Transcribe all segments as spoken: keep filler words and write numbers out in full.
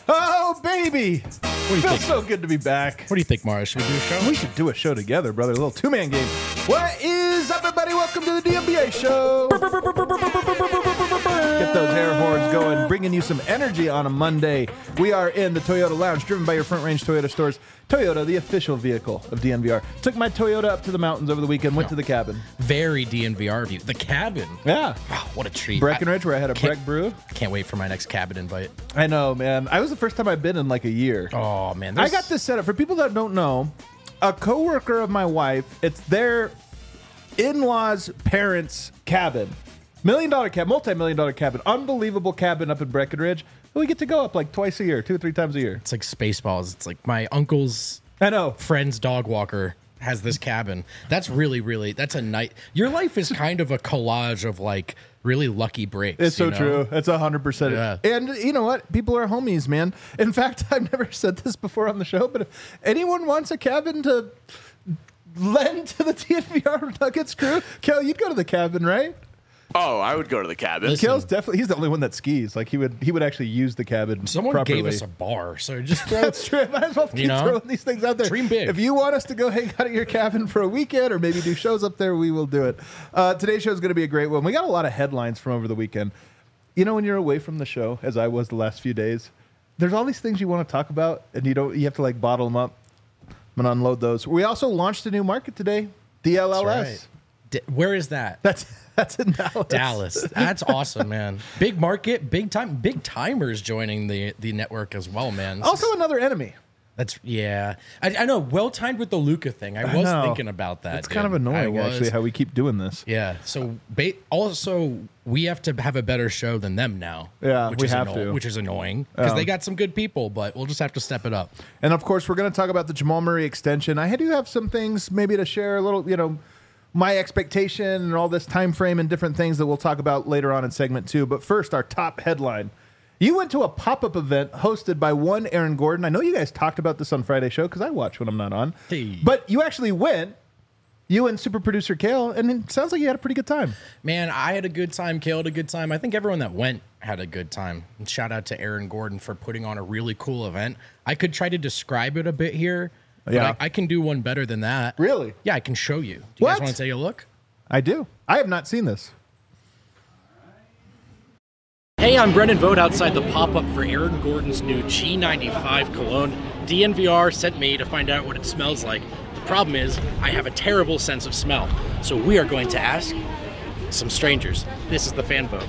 Oh, baby. What do you Feels think? so good to be back. What do you think, Mara? Should we do a show? We should do a show together, brother. A little two-man game. What is up, everybody? Welcome to the D M B A show. Get those air horns going, bringing you some energy on a Monday. We are in the Toyota Lounge, driven by your Front Range Toyota stores. Toyota, the official vehicle of D N V R. Took my Toyota up to the mountains over the weekend, went to the cabin. Very D N V R view. The cabin. Yeah. Wow, what a treat. Breckenridge, where I had a can't- Breck brew. Can't wait for my next cabin invite. I know, man. I was the first time I've been in like a year. Oh, man. I there's- got this set up. For people that don't know, a coworker of my wife, it's their in-laws' parents' cabin. Million dollar cabin, multi-million dollar cabin. Unbelievable cabin up in Breckenridge. We get to go up like twice a year, two or three times a year. It's like Spaceballs. It's like my uncle's I know. friend's dog walker has this cabin. That's really, really, that's a night. Your life is kind of a collage of like really lucky breaks. It's so you know? true. It's one hundred percent. Yeah. And you know what? People are homies, man. In fact, I've never said this before on the show, but if anyone wants a cabin to lend to the T N V R Nuggets crew, Kel, you'd go to the cabin, right? Oh, I would go to the cabin. Listen. Kel's definitely, he's the only one that skis. Like he would he would actually use the cabin Someone properly. gave us a bar, so just throw That's true. Might as well keep You know? throwing these things out there. Dream big. If you want us to go hang out at your cabin for a weekend or maybe do shows up there, we will do it. Uh, today's show is going to be a great one. We got a lot of headlines from over the weekend. You know, when you're away from the show, as I was the last few days, there's all these things you want to talk about, and you don't. You have to like bottle them up. I'm gonna unload those. We also launched a new market today, D L L S. That's right. D- where is that? That's that's in Dallas. Dallas. That's awesome, man. Big market, big time, big timers joining the the network as well, man. This Also, is- another enemy. that's yeah. I, I know. Well timed with the Luca thing. I I was know. thinking about that. It's kind of dude. I annoying, was- actually, how we keep doing this. Yeah. So ba- also we have to have a better show than them now. Yeah, which we is have anno- to. which is annoying because Um, they got some good people, but we'll just have to step it up. And of course, we're going to talk about the Jamal Murray extension. I do have some things maybe to share a little, you know, my expectation and all this time frame and different things that we'll talk about later on in segment two. But first, our top headline. You went to a pop-up event hosted by one Aaron Gordon. I know you guys talked about this on Friday show because I watch when I'm not on. Hey. But you actually went, you and super producer Kale, and it sounds like you had a pretty good time. Man, I had a good time. Kale had a good time. I think everyone that went had a good time. And shout out to Aaron Gordon for putting on a really cool event. I could try to describe it a bit here. But Yeah. I, I can do one better than that. Really? Yeah, I can show you. Do you What? guys want to take a look? I do. I have not seen this. Hey, I'm Brendan Vogt outside the pop-up for Aaron Gordon's new G ninety-five cologne. D N V R sent me to find out what it smells like. The problem is, I have a terrible sense of smell. So we are going to ask some strangers. This is the fan vote.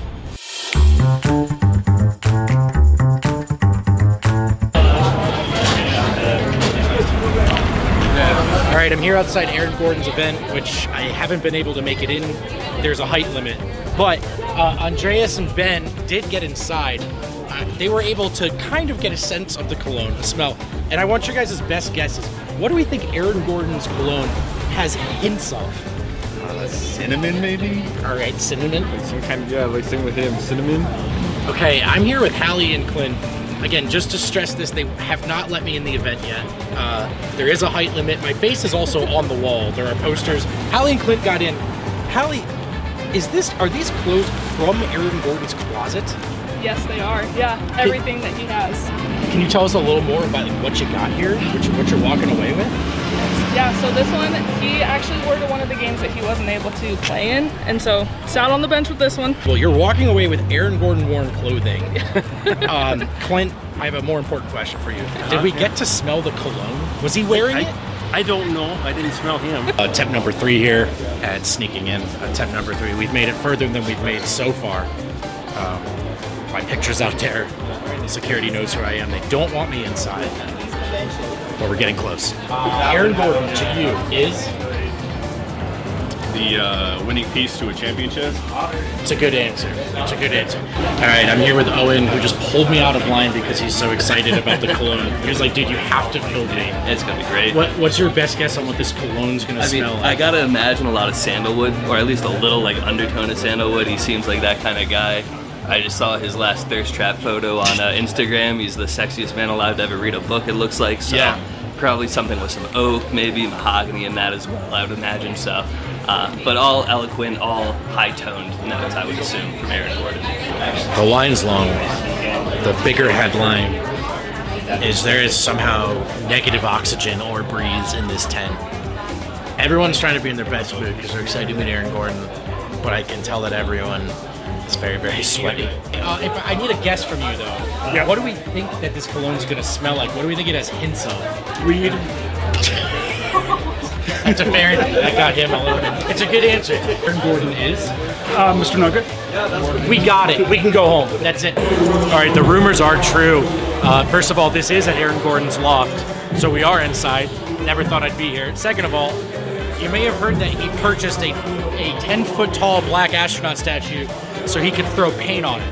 All right, I'm here outside Aaron Gordon's event, which I haven't been able to make it in. There's a height limit. But uh, Andreas and Ben did get inside. Uh, they were able to kind of get a sense of the cologne, the smell. And I want your guys' best guesses. What do we think Aaron Gordon's cologne has hints of? Uh, cinnamon, maybe? All right, cinnamon. Like some kind of, yeah, like same with him, cinnamon. Okay, I'm here with Hallie and Clint. Again, just to stress this, they have not let me in the event yet. Uh, there is a height limit. My face is also on the wall. There are posters. Hallie and Clint got in. Hallie, is this? Are these clothes from Aaron Gordon's closet? Yes, they are. Yeah, everything that he has. Can you tell us a little more about like, what you got here, what, you, what you're walking away with? Yeah, so this one, he actually wore to one of the games that he wasn't able to play in, and so sat on the bench with this one. Well, you're walking away with Aaron Gordon worn clothing. um, Clint, I have a more important question for you. Did we get to smell the cologne? Was he wearing it? I don't know. I didn't smell him. Uh, attempt number three here at sneaking in. Attempt number three. We've made it further than we've made so far. Um, my picture's out there. Security knows who I am. They don't want me inside. But we're getting close. Aaron Gordon to you is? The uh, winning piece to a championship. It's a good answer. It's a good answer. All right, I'm here with Owen, who just pulled me out of line because he's so excited about the cologne. He was like, dude, you have to film me. It's gonna be great. What, what's your best guess on what this cologne's gonna I mean, smell like? I gotta imagine a lot of sandalwood, or at least a little like undertone of sandalwood. He seems like that kind of guy. I just saw his last thirst trap photo on uh, Instagram. He's the sexiest man allowed to ever read a book, it looks like. So Yeah. probably something with some oak, maybe mahogany in that as well, I would imagine. So, uh, but all eloquent, all high-toned notes, I would assume, from Aaron Gordon. The line's long. The bigger headline. is there is somehow negative oxygen or breeze in this tent. Everyone's trying to be in their best mood because they're excited to meet Aaron Gordon, but I can tell that everyone is very, very sweaty. Uh, if I need a guess from you, though, Yeah. what do we think that this cologne's going to smell like? What do we think it has hints of? Weed. That's a fair. I got him a little bit. It's a good answer. Aaron Gordon is. Uh, Mister Nugget. We got it. We can go home. That's it. All right, the rumors are true. Uh, first of all, this is at Aaron Gordon's loft, so we are inside. Never thought I'd be here. Second of all, you may have heard that he purchased a a ten-foot tall black astronaut statue so he could throw paint on it.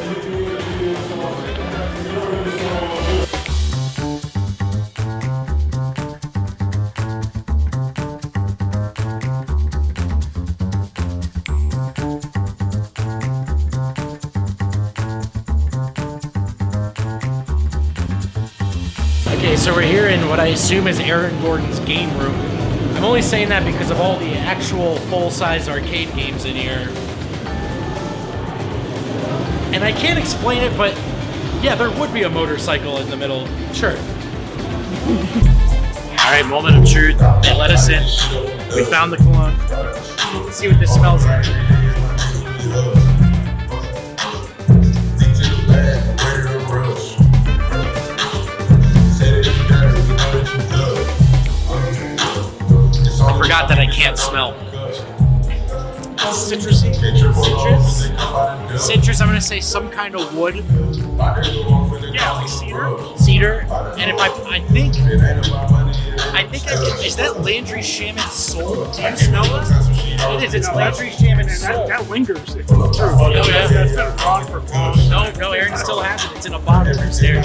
Okay, so we're here in what I assume is Aaron Gordon's game room. I'm only saying that because of all the actual full-size arcade games in here. And I can't explain it, but yeah, there would be a motorcycle in the middle. Sure. All right, moment of truth. They let us in. We found the cologne. Let's see what this smells like. I forgot that I can't smell. Citrusy? Citrus? Citrus, I'm gonna say some kind of wood. Yeah, like cedar. Cedar. And if I, I think, I think I can, is that Landry Shaman's soul? Do you smell it? It is, it's Landry Shaman's soul. That, that lingers, if it's true. Oh, yeah. That's been gone for long. No, no, Aaron still has it. It's in a bottle upstairs.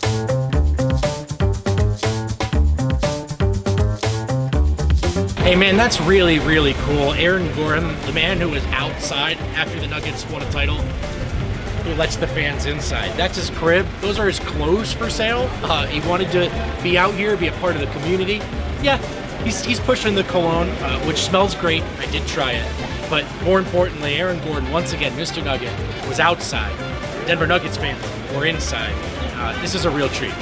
Hey man, that's really, really cool. Aaron Gordon, the man who was outside after the Nuggets won a title, who lets the fans inside. That's his crib. Those are his clothes for sale. Uh, he wanted to be out here, be a part of the community. Yeah, he's, he's pushing the cologne, uh, which smells great. I did try it. But more importantly, Aaron Gordon, once again, Mister Nugget, was outside. Denver Nuggets fans were inside. Uh, this is a real treat.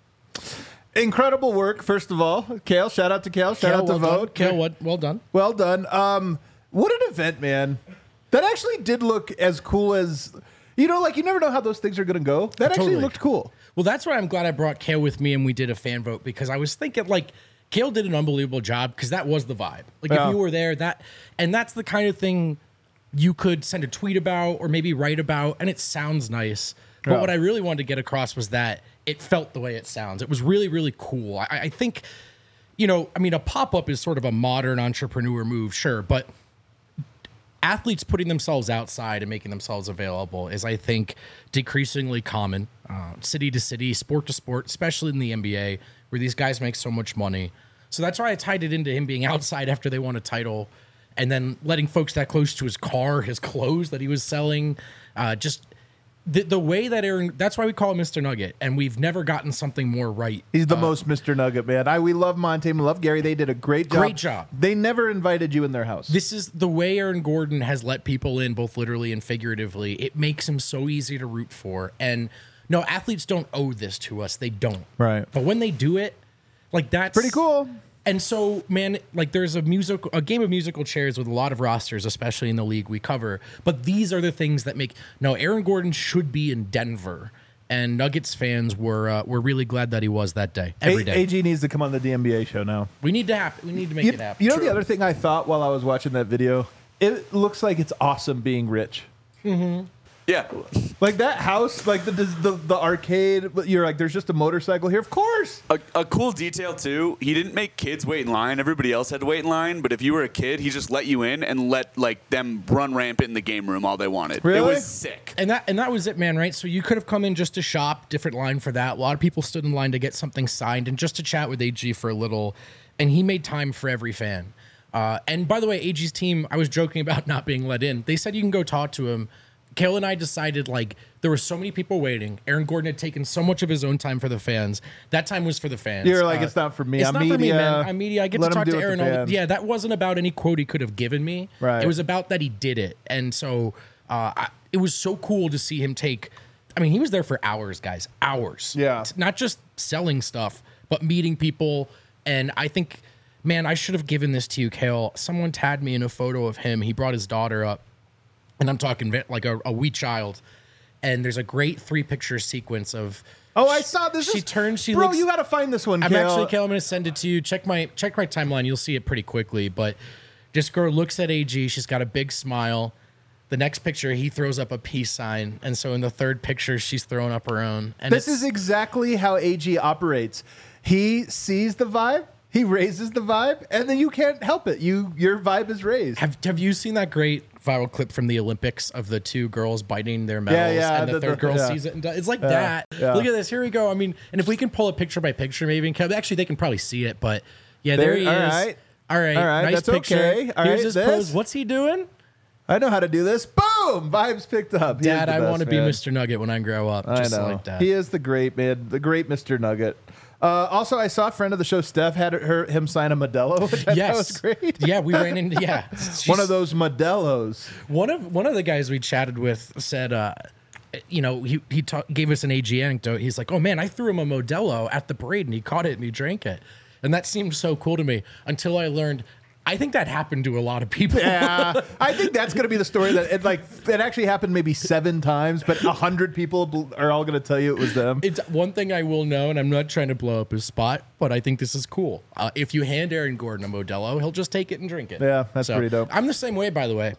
Incredible work, first of all. Kale, shout out to Kale. Shout Kale, out to well Vote. Done. Kale, well, well done. Well done. Um, what an event, man. That actually did look as cool as, you know, like you never know how those things are going to go. That actually Totally. looked cool. Well, that's why I'm glad I brought Kale with me and we did a fan vote, because I was thinking, like, Kale did an unbelievable job because that was the vibe. Like, Yeah. if you were there, that, and that's the kind of thing you could send a tweet about or maybe write about, and it sounds nice. But Yeah. what I really wanted to get across was that it felt the way it sounds. It was really, really cool. I, I think, you know, I mean, a pop-up is sort of a modern entrepreneur move, sure, but athletes putting themselves outside and making themselves available is, I think, decreasingly common, uh, city to city, sport to sport, especially in the N B A, where these guys make so much money. So that's why I tied it into him being outside after they won a title, and then letting folks that close to his car, his clothes that he was selling, uh, just the the way that Aaron. That's why we call him Mister Nugget, and we've never gotten something more right. He's the Uh, most Mister Nugget, man. I we love Monte, we love Gary. They did a great job. Great job. They never invited you in their house. This is the way Aaron Gordon has let people in, both literally and figuratively. It makes him so easy to root for. And no, athletes don't owe this to us. They don't. Right. But when they do it, like that's Pretty cool. And so, man, like there's a musical, a game of musical chairs with a lot of rosters, especially in the league we cover. But these are the things that make. No, Aaron Gordon should be in Denver, and Nuggets fans were uh, were really glad that he was that day. Every A- day. AG needs to come on the D N B A show now. we need to happen. We need to make You, it happen. you know the other thing I thought while I was watching that video? It looks like it's awesome being rich. Yeah. Like that house, like the the, the arcade. You're like, there's just a motorcycle here. Of course. A, a cool detail too. He didn't make kids wait in line. Everybody else had to wait in line. But if you were a kid, he just let you in and let like them run rampant in the game room all they wanted. It Really? was sick. And that and that was it, man, right? So you could have come in just to shop, different line for that. A lot of people stood in line to get something signed and just to chat with A G for a little. And he made time for every fan. Uh, and by the way, A G's team, I was joking about not being let in. They said you can go talk to him. Kale and I decided, like, there were so many people waiting. Aaron Gordon had taken so much of his own time for the fans. That time was for the fans. You're like, Uh, it's not for me. It's I'm not for me, media. man. I'm media. I get Let to him talk do to it with Aaron. the all the- fans. yeah, that wasn't about any quote he could have given me. Right. It was about that he did it. And so uh, I, it was so cool to see him take I mean, he was there for hours, guys, hours. Yeah. It's not just selling stuff, but meeting people. And I think, man, I should have given this to you, Kale. Someone tagged me in a photo of him. He brought his daughter up, and I'm talking like a, a wee child. And there's a great three picture sequence of. Oh, I saw this. She is, turns. She bro, looks, you got to find this one. I'm Kale. actually, Kale. I'm going to send it to you. Check my check my timeline. You'll see it pretty quickly. But this girl looks at A G. She's got a big smile. The next picture, he throws up a peace sign, and so in the third picture, she's throwing up her own. And This is exactly how A G operates. He sees the vibe, he raises the vibe, and then you can't help it. You your vibe is raised. Have Have you seen that great viral clip from the Olympics of the two girls biting their medals, yeah, and the, the- third the- girl yeah. sees it and does, it's like Yeah, that. yeah. Look at this. Here we go. I mean, and if we can pull a picture by picture, maybe and actually they can probably see it, but yeah, there, There- he all is. right. All right, All right, nice that's picture. okay. All Here's right, his this? pose. What's he doing? I know how to do this. Boom! Vibes picked up. He is Dad, the I best, want to be man. Mister Nugget when I grow up. I Just know. like that. He is the great man, the great Mister Nugget. Uh, also, I saw a friend of the show, Steph, had her him sign a Modelo, which I Yes. thought was great. Yeah, we ran into yeah. One of those Modelos. One of one of the guys we chatted with said, uh, you know, he he ta- gave us an A G anecdote. He's like, "Oh man, I threw him a Modelo at the parade, and he caught it and he drank it," and that seemed so cool to me until I learned. I think that happened to a lot of people. Yeah, I think that's going to be the story that it like it actually happened maybe seven times, but a hundred people bl- are all going to tell you it was them. It's one thing I will know, and I'm not trying to blow up his spot, but I think this is cool. Uh, if you hand Aaron Gordon a Modelo, he'll just take it and drink it. Yeah, that's pretty dope. I'm the same way, by the way.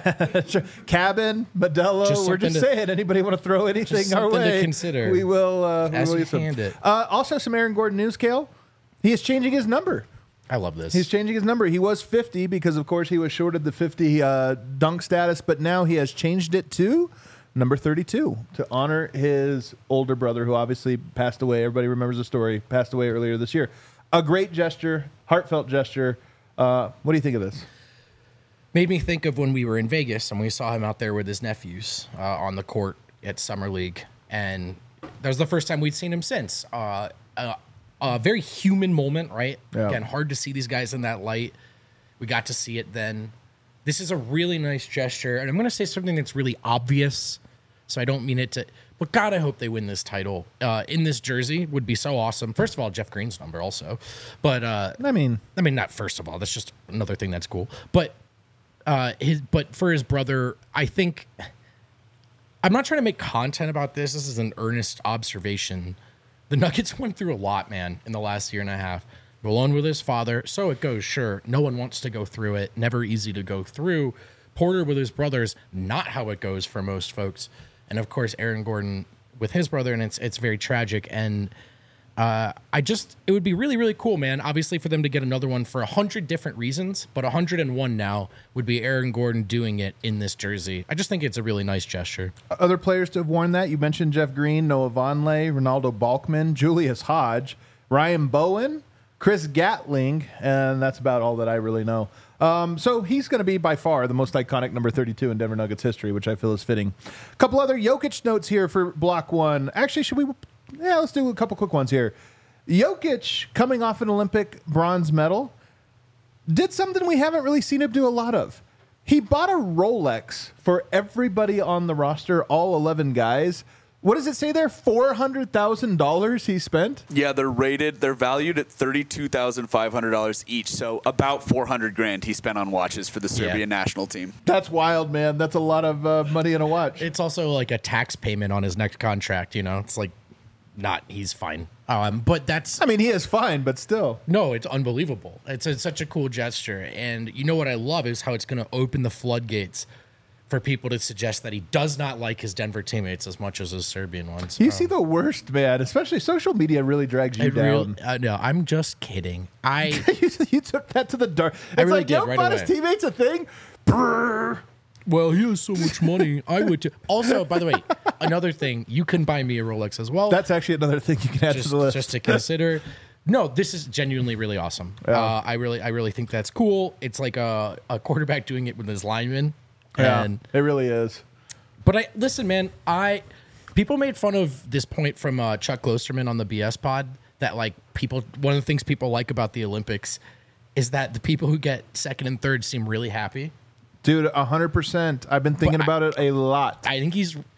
Cabin, Modelo. Just we're just something to- saying. Anybody want to throw anything just our something to way? consider We will. Uh, we as will you use some. hand it. Uh, also, some Aaron Gordon news, Kale. He is changing his number. I love this. He's changing his number. He was fifty because, of course, he was shorted the fifty uh, dunk status, but now he has changed it to number thirty-two to honor his older brother, who obviously passed away. Everybody remembers the story. Passed away earlier this year. A great gesture, heartfelt gesture. Uh, what do you think of this? Made me think of when we were in Vegas and we saw him out there with his nephews uh, on the court at Summer League. And that was the first time we'd seen him since. Uh, uh, a very human moment, right? Yeah. Again, hard to see these guys in that light. We got to see it then. This is a really nice gesture. And I'm going to say something that's really obvious. So I don't mean it to... But God, I hope they win this title. Uh, in this jersey would be so awesome. First of all, Jeff Green's number also. But, uh, I mean... I mean, not first of all. That's just another thing that's cool. But... Uh, his, but for his brother, I think I'm not trying to make content about this. This is an earnest observation. The Nuggets went through a lot, man, in the last year and a half. Malone with his father, so it goes. Sure, no one wants to go through it. Never easy to go through. Porter with his brothers, not how it goes for most folks. And of course, Aaron Gordon with his brother, and it's it's very tragic. And Uh, I just, it would be really, really cool, man. Obviously, for them to get another one for a hundred different reasons, but a hundred and one now would be Aaron Gordon doing it in this jersey. I just think it's a really nice gesture. Other players to have worn that, you mentioned Jeff Green, Noah Vonleh, Ronaldo Balkman, Julius Hodge, Ryan Bowen, Chris Gatling, and that's about all that I really know. Um, so he's going to be by far the most iconic number thirty-two in Denver Nuggets history, which I feel is fitting. A couple other Jokic notes here for block one. Actually, should we... Yeah, let's do a couple quick ones here. Jokic, coming off an Olympic bronze medal, did something we haven't really seen him do a lot of. He bought a Rolex for everybody on the roster, all eleven guys. What does it say there? four hundred thousand dollars he spent? Yeah, they're rated, they're valued at thirty-two thousand five hundred dollars each. So about four hundred grand he spent on watches for the Serbian Yeah. national team. That's wild, man. That's a lot of uh, money in a watch. It's also like a tax payment on his next contract, you know? It's like, not, he's fine. Um, but that's... I mean, he is fine, but still. No, it's unbelievable. It's, it's such a cool gesture. And you know what I love is how it's going to open the floodgates for people to suggest that he does not like his Denver teammates as much as his Serbian ones. You Um, see the worst, man. Especially social media really drags you it down. real- uh, no, I'm just kidding. I... you, you took that to the dark. It's I really like, did, yo, right bought his away. teammates a thing? Brrr. Well, he has so much money. I would too. Also, by the way, another thing, you can buy me a Rolex as well. That's actually another thing you can add just, to the list. just to consider. No, this is genuinely really awesome. Yeah. Uh, I really, I really think that's cool. It's like a, a quarterback doing it with his lineman. Yeah, And, it really is. but I listen, man. I people made fun of this point from uh, Chuck Klosterman on the B S pod that like people. One of the things people like about the Olympics is that the people who get second and third seem really happy. Dude, one hundred percent. I've been thinking But I- about it a lot. I think he's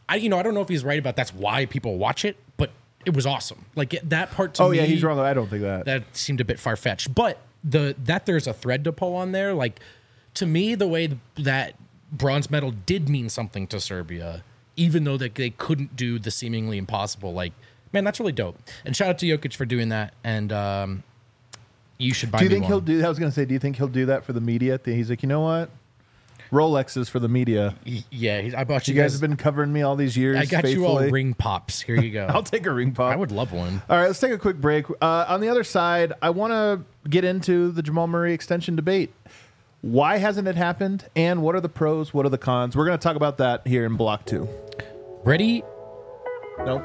I, you know, I don't know if he's right about that's why people watch it, but it was awesome. Like it, that part to Oh me. yeah, he's wrong. I don't think that. That seemed a bit far fetched, but the that there's a thread to pull on there. Like to me, the way that bronze medal did mean something to Serbia, even though that they couldn't do the seemingly impossible. Like, man, that's really dope. And shout out to Jokic for doing that. And um, you should buy. Do you me think one. he'll do? I was going to say, do you think he'll do that for the media? He's like, you know what? Rolexes for the media. Yeah, he- I bought You you, guys have been covering me all these years. I got you all faithfully. ring pops. Here you go. I'll take a ring pop. I would love one. All right, let's take a quick break. Uh, on the other side, I want to get into the Jamal Murray extension debate. Why hasn't it happened? And what are the pros? What are the cons? We're going to talk about that here in Block two. Ready, Nope.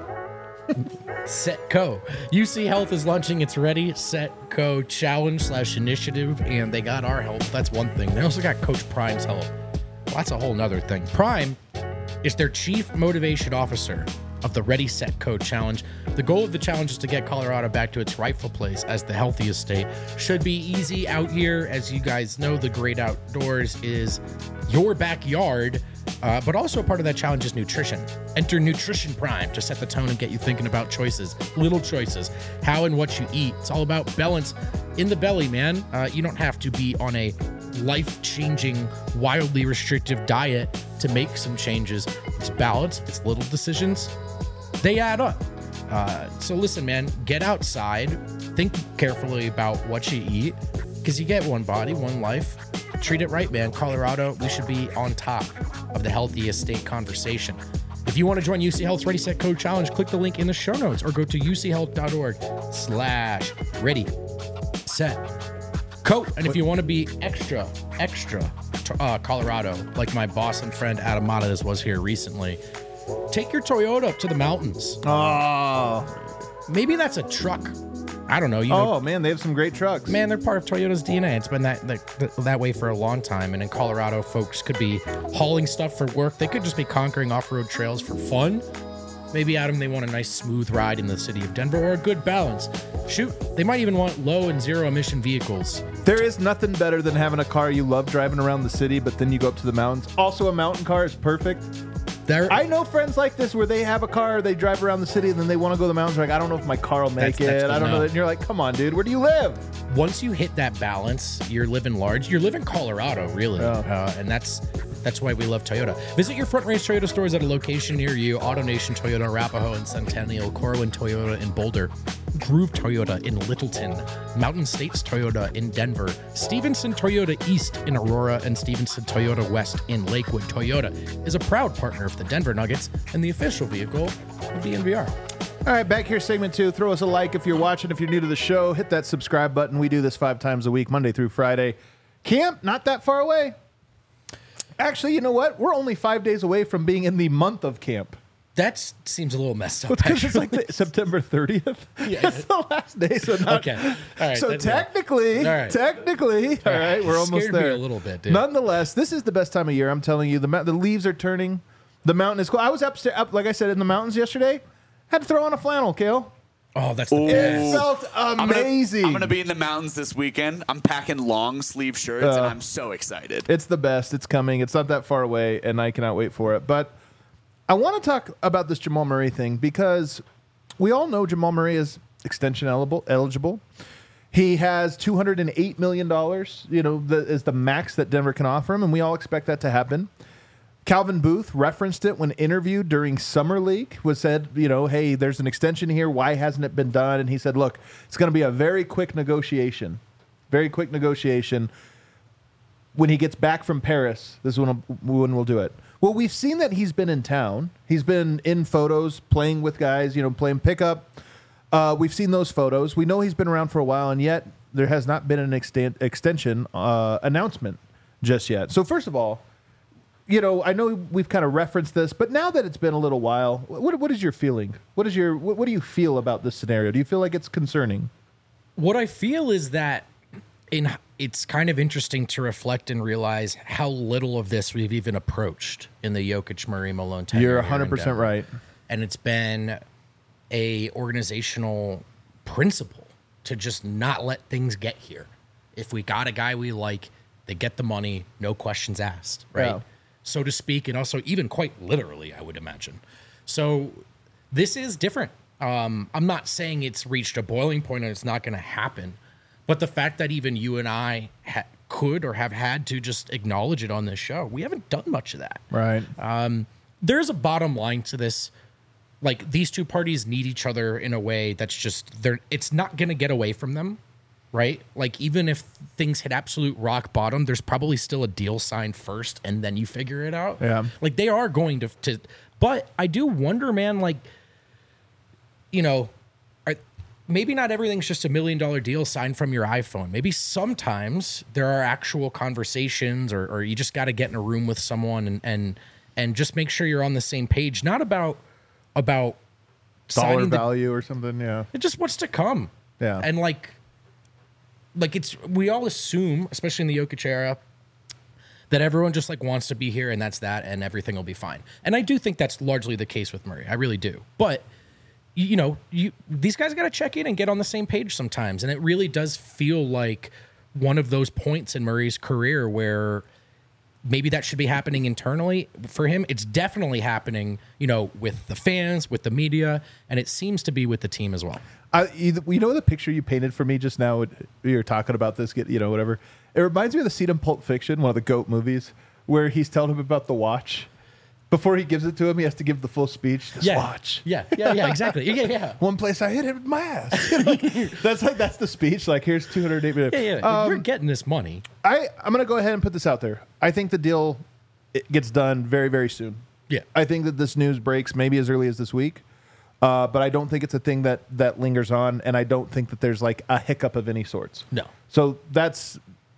set, go. U C Health is launching its Ready, Set, Go challenge slash initiative, and they got our help. That's one thing. They also got Coach Prime's help. Well, that's a whole nother thing. Prime is their chief motivation officer of the Ready, Set, Go challenge. The goal of the challenge is to get Colorado back to its rightful place as the healthiest state. Should be easy out here. As you guys know, the great outdoors is your backyard. Uh, but also a part of that challenge is nutrition. Enter Nutrition Prime to set the tone and get you thinking about choices, little choices, how and what you eat. It's all about balance in the belly, man. Uh, you don't have to be on a life-changing, wildly restrictive diet to make some changes. It's balance. It's little decisions. They add up. Uh, so listen, man, get outside. Think carefully about what you eat because you get one body, one life. Treat it right, man. Colorado, we should be on top of the healthiest state conversation. If you want to join U C Health's Ready, Set, Code Challenge, click the link in the show notes or go to uchealth.org slash ready, set, code. And if you want to be extra, extra uh, Colorado, like my boss and friend Adam Matas was here recently, take your Toyota up to the mountains. Oh. Maybe that's a truck. I don't know. You know, Oh, man, they have some great trucks. man, they're part of Toyota's D N A. It's been that, that that way for a long time. And in Colorado, folks could be hauling stuff for work. They could just be conquering off-road trails for fun. Maybe, Adam, they want a nice smooth ride in the city of Denver or a good balance. Shoot, they might even want low and zero emission vehicles. There is nothing better than having a car you love driving around the city, but then you go up to the mountains. Also, a mountain car is perfect. There, I know friends like this where they have a car, they drive around the city, and then they want to go to the mountains. They're like, I don't know if my car will make That's- that's it. the I don't know. no. that. And you're like, come on, dude, where do you live? once you hit that balance, you're living large. You're living Colorado, really, Yeah. uh, and that's that's why we love Toyota. Visit your Front Range Toyota stores at a location near you. AutoNation Toyota Arapahoe and Centennial, Corwin Toyota in Boulder, Groove Toyota in Littleton, Mountain States Toyota in Denver, Stevenson Toyota East in Aurora, and Stevenson Toyota West in Lakewood. Toyota is a proud partner of the Denver Nuggets and the official vehicle of the N V R. All right, back here, segment two. Throw us a like if you're watching. If you're new to the show, hit that subscribe button. We do this five times a week, Monday through Friday. Camp, not that far away. Actually, you know what? We're only five days away from being in the month of camp. That seems a little messed up. Because it's actually. like the, September thirtieth. Yeah. It's the last day. So not, Okay. All right, So that's- technically, All right. technically, all right, we're almost Scared me there. a little bit, dude. Nonetheless, this is the best time of year. I'm telling you, the ma- the leaves are turning. The mountain is cool. I was upstairs, up like I said, in the mountains yesterday. Had to throw on a flannel, Kale. Oh, that's the Ooh. It best. felt I'm gonna- amazing. I'm going to be in the mountains this weekend. I'm packing long sleeve shirts, and Uh, I'm so excited. It's the best. It's coming. It's not that far away, and I cannot wait for it. But I want to talk about this Jamal Murray thing because we all know Jamal Murray is extension eligible. eligible. He has two hundred eight million dollars, you know, the, is the max that Denver can offer him, and we all expect that to happen. Calvin Booth referenced it when interviewed during Summer League, was said, you know, hey, there's an extension here. Why hasn't it been done? And he said, look, it's going to be a very quick negotiation. Very quick negotiation. When he gets back from Paris, this is when, when we'll do it. Well, we've seen that he's been in town. He's been in photos, playing with guys, you know, playing pickup. Uh, we've seen those photos. We know he's been around for a while, and yet there has not been an extent, extension uh, announcement just yet. So first of all, you know, I know we've kind of referenced this, but now that it's been a little while, what what is your feeling? What is your what, what do you feel about this scenario? Do you feel like it's concerning? What I feel is that in it's kind of interesting to reflect and realize how little of this we've even approached in the Jokic, Murray, Malone tenure. You're here one hundred in percent Denver. right. And it's been a organizational principle to just not let things get here. If we got a guy we like, they get the money, no questions asked, right? Yeah. so to speak, and also even quite literally, I would imagine. So this is different. Um, I'm not saying it's reached a boiling point and it's not going to happen, but the fact that even you and I ha- could or have had to just acknowledge it on this show, we haven't done much of that. Right. Um, there's a bottom line to this. Like, these two parties need each other in a way that's just, they're, it's not going to get away from them, right? Like, even if things hit absolute rock bottom, there's probably still a deal signed first and then you figure it out. Yeah. Like, they are going to, to but I do wonder, man, like, you know, are, maybe not everything's just a million dollar deal signed from your iPhone. Maybe sometimes there are actual conversations, or, or you just got to get in a room with someone and, and, and just make sure you're on the same page, not about, about dollar signing the- value or something. Yeah. It's just what's to come. Yeah. And like, like it's, we all assume, especially in the Jokic era, that everyone just like wants to be here and that's that and everything will be fine. And I do think that's largely the case with Murray. I really do. But you, you know, you these guys got to check in and get on the same page sometimes. And it really does feel like one of those points in Murray's career where maybe that should be happening internally for him. It's definitely happening, you know, with the fans, with the media, and it seems to be with the team as well. I, you, you know the picture you painted for me just now? We were talking about this, get you know, whatever. It reminds me of the scene in Pulp Fiction, one of the GOAT movies, where he's telling him about the watch. Before he gives it to him, he has to give the full speech. This yeah. watch. Yeah, yeah, yeah, exactly. Yeah, yeah. One place I hit it with my ass. that's like that's the speech. Like, here's two hundred eight minutes. Yeah, yeah. Um, You're getting this money. I, I'm going to go ahead and put this out there. I think the deal it gets done very, very soon. Yeah. I think that this news breaks maybe as early as this week. Uh, but I don't think it's a thing that, that lingers on, and I don't think that there's like a hiccup of any sorts. No. So that's,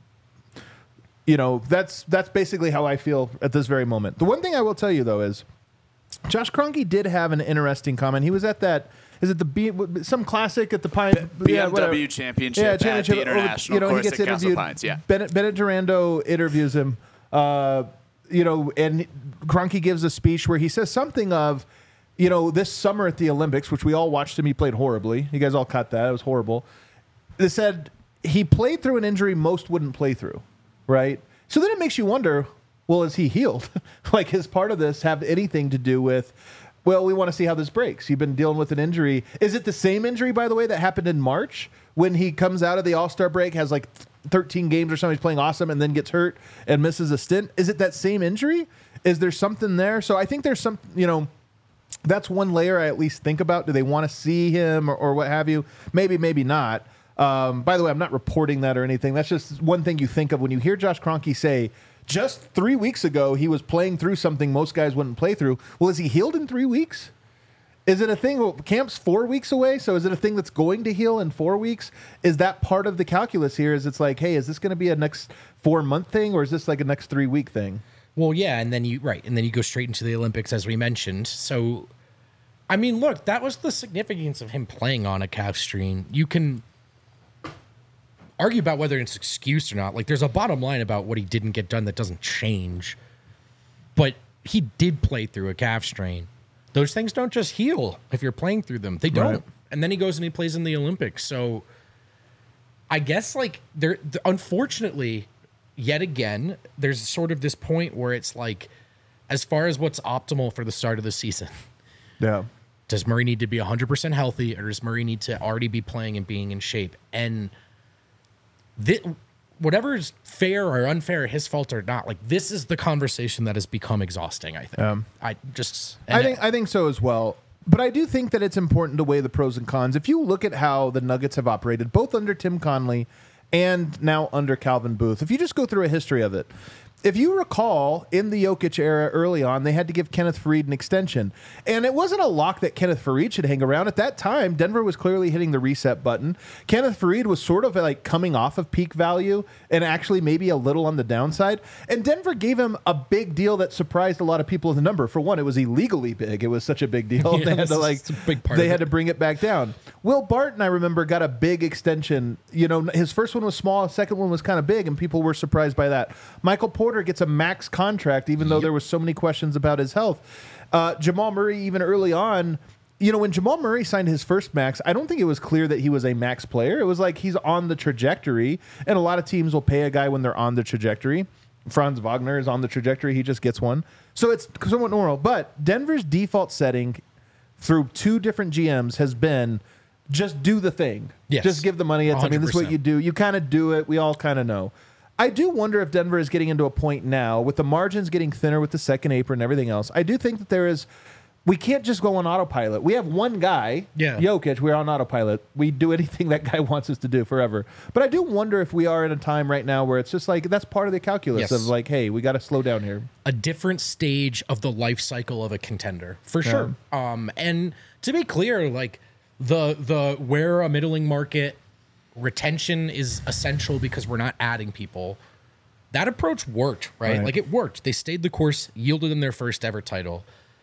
you know, that's that's basically how I feel at this very moment. The one thing I will tell you, though, is Josh Kroenke did have an interesting comment. He was at that, is it the B, some classic at the Pine? B yeah, M W whatever. championship, yeah, at championship the over- International you know, he course gets at Castle interviewed. Pines. Yeah. Bennett, Bennett Durando interviews him, uh, you know, and Kroenke gives a speech where he says something of, you know, this summer at the Olympics, which we all watched him, he played horribly. You guys all cut that. It was horrible. They said he played through an injury most wouldn't play through, right? So then it makes you wonder, well, is he healed? Like, does part of this have anything to do with, well, we want to see how this breaks. You've been dealing with an injury. Is it the same injury, by the way, that happened in March when he comes out of the All-Star break, has like thirteen games or something, he's playing awesome, and then gets hurt and misses a stint? Is it that same injury? Is there something there? So I think there's some, you know, that's one layer I at least think about. Do they want to see him or, or what have you? Maybe, maybe not. Um, by the way, I'm not reporting that or anything. That's just one thing you think of when you hear Josh Kroenke say, just three weeks ago, he was playing through something most guys wouldn't play through. Well, is he healed in three weeks? Is it a thing? Well, camp's four weeks away, so is it a thing that's going to heal in four weeks? Is that part of the calculus here? Is it's like, hey, is this going to be a next four-month thing, or is this like a next three-week thing? Well, yeah, and then you right, and then you go straight into the Olympics, as we mentioned. So, I mean, look, that was the significance of him playing on a calf strain. You can argue about whether it's an excuse or not. Like, there's a bottom line about what he didn't get done that doesn't change. But he did play through a calf strain. Those things don't just heal if you're playing through them. They don't. Right. And then he goes and he plays in the Olympics. So, I guess, like, there, unfortunately, yet again, there's sort of this point where it's like, as far as what's optimal for the start of the season, Yeah. does Murray need to be one hundred percent healthy, or does Murray need to already be playing and being in shape? And this, whatever is fair or unfair, his fault or not, like, this is the conversation that has become exhausting, I think. Um, I just... I think I think so as well. But I do think that it's important to weigh the pros and cons. If you look at how the Nuggets have operated, both under Tim Connelly and now under Calvin Booth, if you just go through a history of it, if you recall, in the Jokic era early on, they had to give Kenneth Faried an extension. And it wasn't a lock that Kenneth Faried should hang around. At that time, Denver was clearly hitting the reset button. Kenneth Faried was sort of like coming off of peak value and actually maybe a little on the downside. And Denver gave him a big deal that surprised a lot of people in the number. For one, it was illegally big. It was such a big deal. Yeah, they had to like a big part they of had it. to bring it back down. Will Barton, I remember, got a big extension. You know, his first one was small, his second one was kind of big, and people were surprised by that. Michael Porter gets a max contract, even though there was so many questions about his health. Uh, Jamal Murray, even early on, you know, when Jamal Murray signed his first max, I don't think it was clear that he was a max player. It was like he's on the trajectory, and a lot of teams will pay a guy when they're on the trajectory. Franz Wagner is on the trajectory. He just gets one. So it's somewhat normal. But Denver's default setting through two different G Ms has been just do the thing. Yes. Just give the money. It's, I mean, this is what one hundred percent. you do. You kind of do it. We all kind of know. I do wonder if Denver is getting into a point now with the margins getting thinner with the second apron and everything else. I do think that there is, we can't just go on autopilot. We have one guy, Yeah. Jokic, we're on autopilot. We do anything that guy wants us to do forever. But I do wonder if we are in a time right now where it's just like, that's part of the calculus Yes. of like, hey, we got to slow down here. A different stage of the life cycle of a contender, for sure. Um, and to be clear, like the the where a middling market retention is essential because we're not adding people. That approach worked, right? Right. Like it worked. They stayed the course, yielded them their first ever title.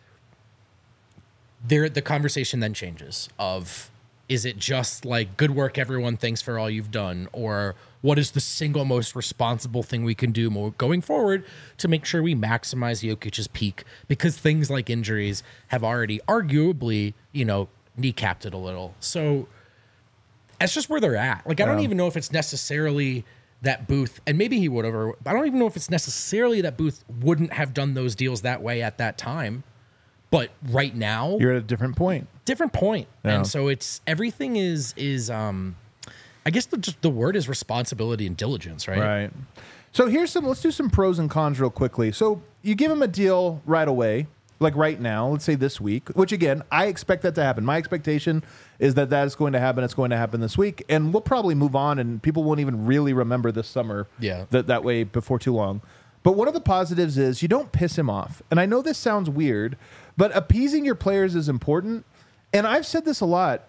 There, the conversation then changes of, is it just like good work, everyone, thanks for all you've done, or what is the single most responsible thing we can do more going forward to make sure we maximize Jokic's peak, because things like injuries have already arguably, you know, kneecapped it a little. So that's just where they're at. Like I don't Yeah. even know if it's necessarily that Booth, and maybe he would have, or I don't even know if it's necessarily that Booth wouldn't have done those deals that way at that time. But right now, You're at a different point. different point. Yeah. And so it's everything is is um I guess the just the word is responsibility and diligence, right? Right. So here's some, let's do some pros and cons real quickly. So you give him a deal right away, like right now, let's say this week, which again, I expect that to happen. My expectation is that that is going to happen. It's going to happen this week. And we'll probably move on and people won't even really remember this summer Yeah. that, that way before too long. But one of the positives is you don't piss him off. And I know this sounds weird, but appeasing your players is important. And I've said this a lot.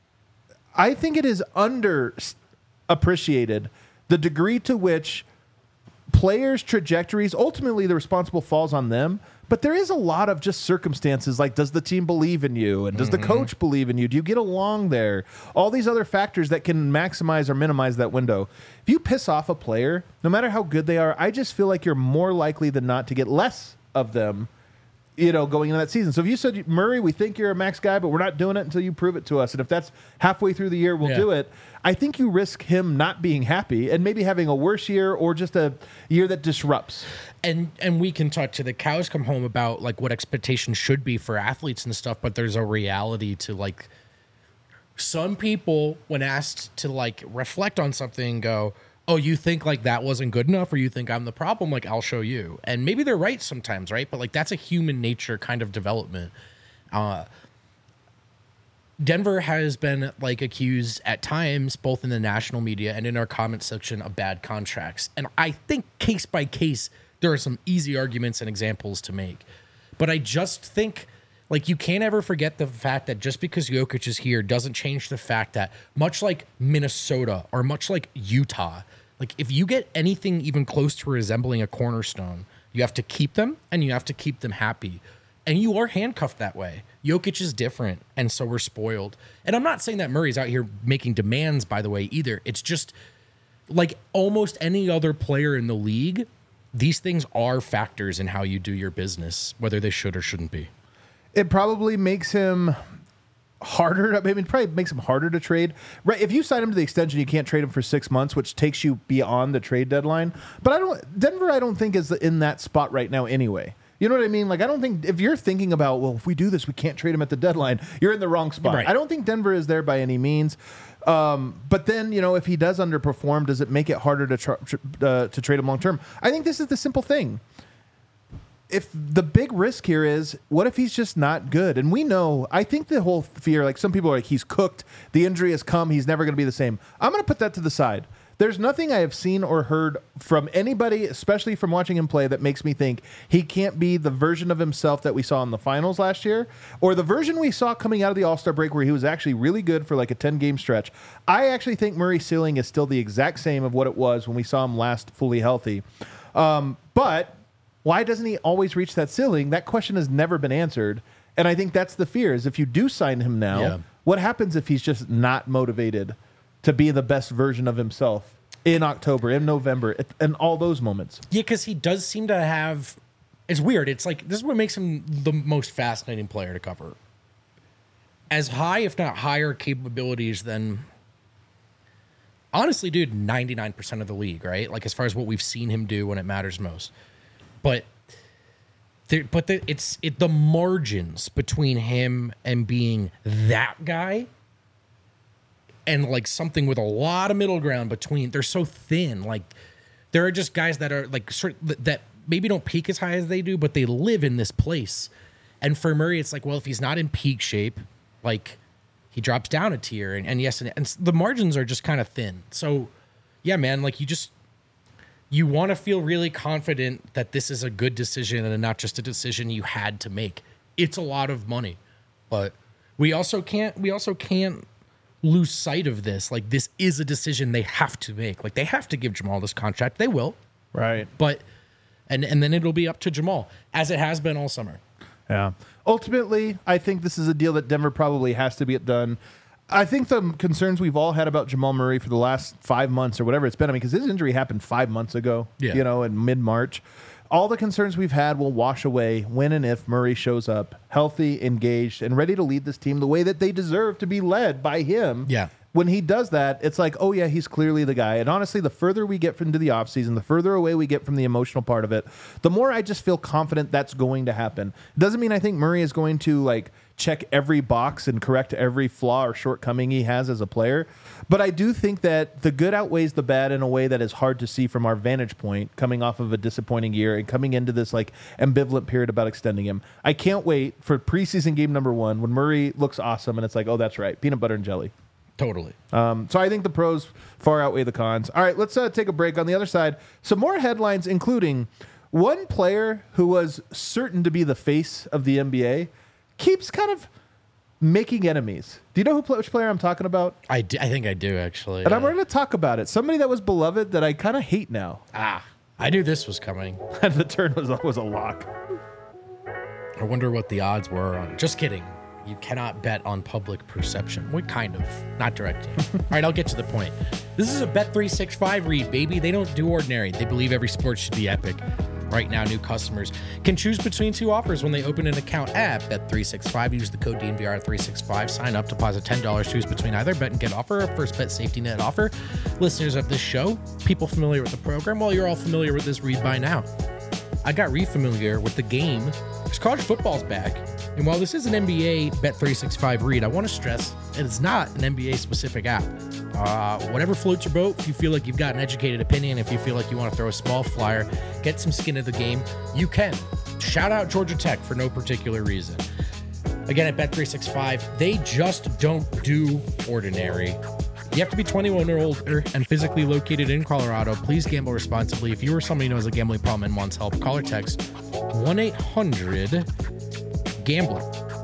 I think it is underappreciated the degree to which players' trajectories, ultimately the responsible falls on them, but there is a lot of just circumstances like, does the team believe in you? And does the coach believe in you? Do you get along there? All these other factors that can maximize or minimize that window. If you piss off a player, no matter how good they are, I just feel like you're more likely than not to get less of them, you know, going into that season. So if you said, Murray, we think you're a max guy, but we're not doing it until you prove it to us. And if that's halfway through the year, we'll Yeah. do it. I think you risk him not being happy and maybe having a worse year or just a year that disrupts. And and we can talk to the cows come home about like what expectations should be for athletes and stuff, but there's a reality to like some people when asked to like reflect on something go, oh, you think like that wasn't good enough, or you think I'm the problem? Like, I'll show you. And maybe they're right sometimes, right? But like that's a human nature kind of development. Uh, Denver has been like accused at times, both in the national media and in our comment section, of bad contracts. And I think case by case, there are some easy arguments and examples to make. But I just think like you can't ever forget the fact that just because Jokic is here doesn't change the fact that much like Minnesota or much like Utah, like if you get anything even close to resembling a cornerstone, you have to keep them and you have to keep them happy. And you are handcuffed that way. Jokic is different, and so we're spoiled. And I'm not saying that Murray's out here making demands, by the way, either. It's just like almost any other player in the league, these things are factors in how you do your business, whether they should or shouldn't be. It probably makes him harder. I mean, it probably makes him harder to trade. Right? If you sign him to the extension, you can't trade him for six months, which takes you beyond the trade deadline. But I don't. Denver, I don't think is in that spot right now. Anyway, you know what I mean? Like, I don't think if you're thinking about, well, if we do this, we can't trade him at the deadline. You're in the wrong spot. Right. I don't think Denver is there by any means. Um, but then, you know, if he does underperform, does it make it harder to tr- tr- uh, to trade him long term? I think this is the simple thing. If the big risk here is, what if he's just not good? And we know, I think the whole fear, like some people are like, he's cooked, the injury has come, he's never going to be the same. I'm going to put that to the side. There's nothing I have seen or heard from anybody, especially from watching him play, that makes me think he can't be the version of himself that we saw in the finals last year, or the version we saw coming out of the All-Star break where he was actually really good for like a ten-game stretch. I actually think Murray's ceiling is still the exact same of what it was when we saw him last fully healthy. Um, but why doesn't he always reach that ceiling? That question has never been answered. And I think that's the fear, is if you do sign him now, Yeah. what happens if he's just not motivated to be the best version of himself in October, in November, and all those moments? Yeah, because he does seem to have. It's weird. It's like this is what makes him the most fascinating player to cover. As high, if not higher, capabilities than honestly, dude, ninety-nine percent of the league, right? Like as far as what we've seen him do when it matters most. But there, but the, it's it the margins between him and being that guy and like something with a lot of middle ground between, they're so thin. Like there are just guys that are like sort that maybe don't peak as high as they do, but they live in this place. And for Murray, it's like, well, if he's not in peak shape, like he drops down a tier. And, and yes, and, and the margins are just kind of thin. So yeah, man, like you just, you want to feel really confident that this is a good decision and not just a decision you had to make. It's a lot of money, but we also can't, we also can't lose sight of this. Like this is a decision they have to make. Like they have to give Jamal this contract. They will. Right. But, and, and then it'll be up to Jamal as it has been all summer. Yeah. Ultimately, I think this is a deal that Denver probably has to get done. I think the concerns we've all had about Jamal Murray for the last five months or whatever it's been, I mean, because his injury happened five months ago, yeah. you know, in mid-March. All the concerns we've had will wash away when and if Murray shows up healthy, engaged, and ready to lead this team the way that they deserve to be led by him. Yeah. When he does that, it's like, oh, yeah, he's clearly the guy. And honestly, the further we get into the offseason, the further away we get from the emotional part of it, the more I just feel confident that's going to happen. Doesn't mean I think Murray is going to, like, check every box and correct every flaw or shortcoming he has as a player. But I do think that the good outweighs the bad in a way that is hard to see from our vantage point, coming off of a disappointing year and coming into this, like, ambivalent period about extending him. I can't wait for preseason game number one when Murray looks awesome and it's like, oh, that's right, peanut butter and jelly. Totally. Um, so I think the pros far outweigh the cons. All right, let's uh, take a break. On the other side, some more headlines, including one player who was certain to be the face of the N B A keeps kind of making enemies. Do you know who which player I'm talking about? I, do, I think I do, actually. And uh, I'm going to talk about it. Somebody that was beloved that I kind of hate now. Ah, I knew this was coming. And the turn was, was a lock. I wonder what the odds were on. Just kidding. You cannot bet on public perception. What kind of? Not directly. All right, I'll get to the point. This is a Bet three sixty-five read, baby. They don't do ordinary. They believe every sport should be epic. Right now, new customers can choose between two offers when they open an account at Bet three sixty-five. Use the code D N V R three sixty-five. Sign up, deposit ten dollars. Choose between either bet and get offer or first bet safety net offer. Listeners of this show, people familiar with the program, well, you're all familiar with this read by now. I got re-familiar with the game because college football's back. And while this is an N B A Bet three sixty-five read, I want to stress that it's not an N B A-specific app. Uh, whatever floats your boat, if you feel like you've got an educated opinion, if you feel like you want to throw a small flyer, get some skin in the game, you can. Shout out Georgia Tech for no particular reason. Again, at Bet three sixty-five, they just don't do ordinary. You have to be twenty-one or older and physically located in Colorado. Please gamble responsibly. If you or somebody knows a gambling problem and wants help, call or text one eight hundred gambler.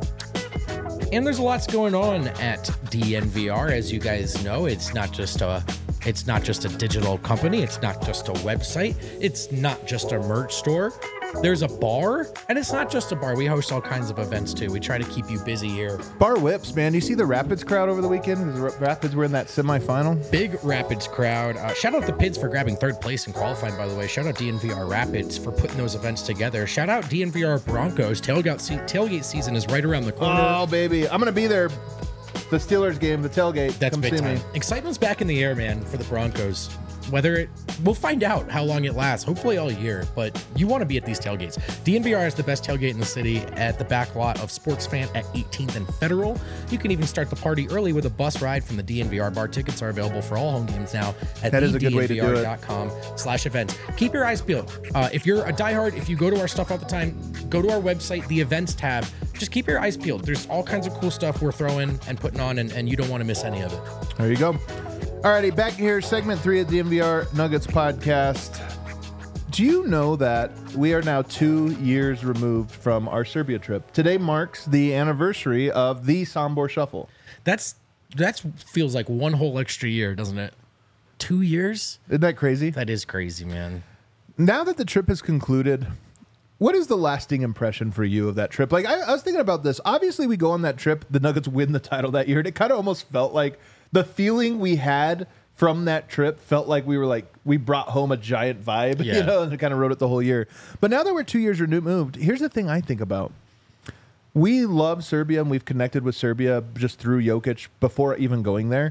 And there's lots going on at D N V R, as you guys know. It's not just a it's not just a digital company, it's not just a website, it's not just a merch store. There's a bar, and it's not just a bar. We host all kinds of events too. We try to keep you busy here. Bar whips, man. You see the Rapids crowd over the weekend? The Rapids were in that semifinal. Big Rapids crowd. Uh, shout out the Pids for grabbing third place and qualifying, by the way. Shout out D N V R Rapids for putting those events together. Shout out D N V R Broncos. Tailgate, se- tailgate season is right around the corner. Oh, baby. I'm going to be there. The Steelers game, the tailgate. That's Come big see time. me. Excitement's back in the air, man, for the Broncos. Whether it, we'll find out how long it lasts, hopefully all year, but you want to be at these tailgates. D N V R is the best tailgate in the city at the back lot of Sports Fan at eighteenth and Federal. You can even start the party early with a bus ride from the D N V R bar. Tickets are available for all home games now at That is a good way to do it. com slash events. Keep your eyes peeled. Uh, if you're a diehard, if you go to our stuff all the time, go to our website, the events tab. Just keep your eyes peeled. There's all kinds of cool stuff we're throwing and putting on, and, and you don't want to miss any of it. There you go. Alrighty, back here, segment three of the D N V R Nuggets podcast. Do you know that we are now two years removed from our Serbia trip? Today marks the anniversary of the Sombor Shuffle. That's that feels like one whole extra year, doesn't it? Two years? Isn't that crazy? That is crazy, man. Now that the trip has concluded, what is the lasting impression for you of that trip? Like, I, I was thinking about this. Obviously, we go on that trip, the Nuggets win the title that year, and it kind of almost felt like the feeling we had from that trip felt like we were like, we brought home a giant vibe, Yeah. you know, and kind of rode it the whole year. But now that we're two years removed, here's the thing I think about. We love Serbia, and we've connected with Serbia just through Jokic before even going there.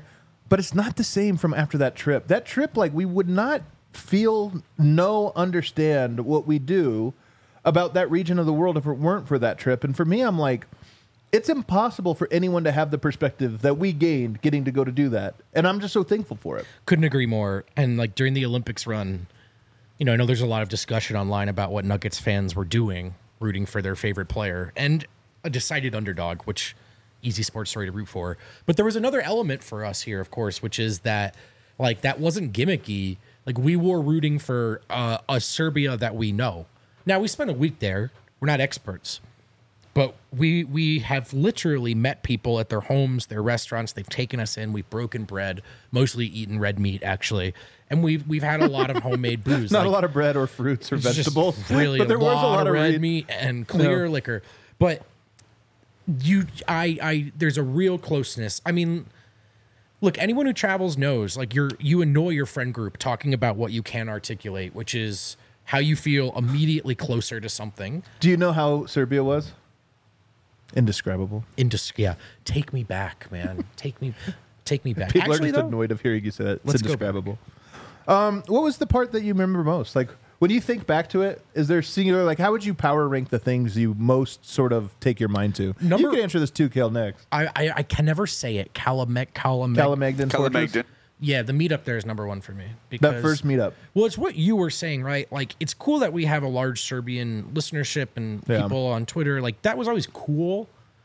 but it's not the same from after that trip. That trip, like, we would not feel, know, understand what we do about that region of the world if it weren't for that trip. And for me, I'm like, it's impossible for anyone to have the perspective that we gained getting to go to do that. And I'm just so thankful for it. Couldn't agree more. And like during the Olympics run, you know, I know there's a lot of discussion online about what Nuggets fans were doing, rooting for their favorite player and a decided underdog, which easy sports story to root for. But there was another element for us here, of course, which is that like that wasn't gimmicky. Like we were rooting for uh, a Serbia that we know. Now we spent a week there. We're not experts. But we we have literally met people at their homes, their restaurants. They've taken us in. We've broken bread, mostly eaten red meat, actually. And we've we've had a lot of homemade booze. Not like, a lot of bread or fruits or it's just vegetables. Really, but there a was lot a lot of red read. meat and clear No. liquor. But you, I, I, there's a real closeness. I mean, look, anyone who travels knows, like you're you annoy your friend group talking about what you can articulate, which is how you feel immediately closer to something. Do you know how Serbia was? Indescribable. Indis- yeah, take me back, man. Take me, take me back. People Actually, are just though, annoyed of hearing you say that. It's Let's go indescribable. Um, what was the part that you remember most? Like when you think back to it, is there singular? Like how would you power rank the things you most sort of take your mind to? Number- you can answer this too, Kale. Next, I, I, I can never say it. Calamec, Calamec. Calamagdan. Fortress? Calamagdan. Yeah, the meetup there is number one for me. Because, That first meetup. Well, it's what you were saying, right? Like, it's cool that we have a large Serbian listenership and Yeah. people on Twitter. Like, that was always cool.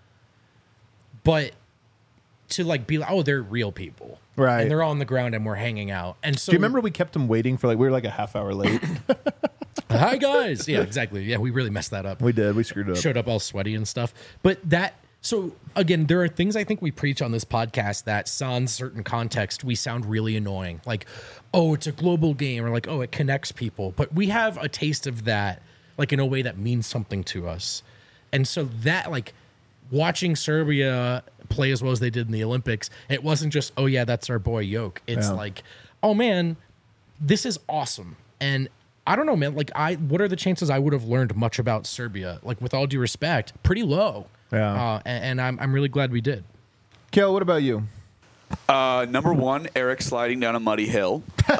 But to, like, be like, oh, they're real people. Right. And they're all on the ground and we're hanging out. And so. Do you remember we kept them waiting for like we were like a half hour late? Hi, guys. Yeah, exactly. Yeah, we really messed that up. We did. We screwed it up. Showed up all sweaty and stuff. But that. So, again, there are things I think we preach on this podcast that, sans certain context, we sound really annoying. Like, oh, it's a global game, or like, oh, it connects people. But we have a taste of that, like, in a way that means something to us. And so that, like, watching Serbia play as well as they did in the Olympics, it wasn't just, oh, yeah, that's our boy Joke. It's Yeah. like, oh, man, this is awesome. And I don't know, man, like, I what are the chances I would have learned much about Serbia? Like, with all due respect, pretty low. Yeah. Uh, and, and I'm I'm really glad we did. Kale, what about you? Uh, number one, Eric sliding down a muddy hill.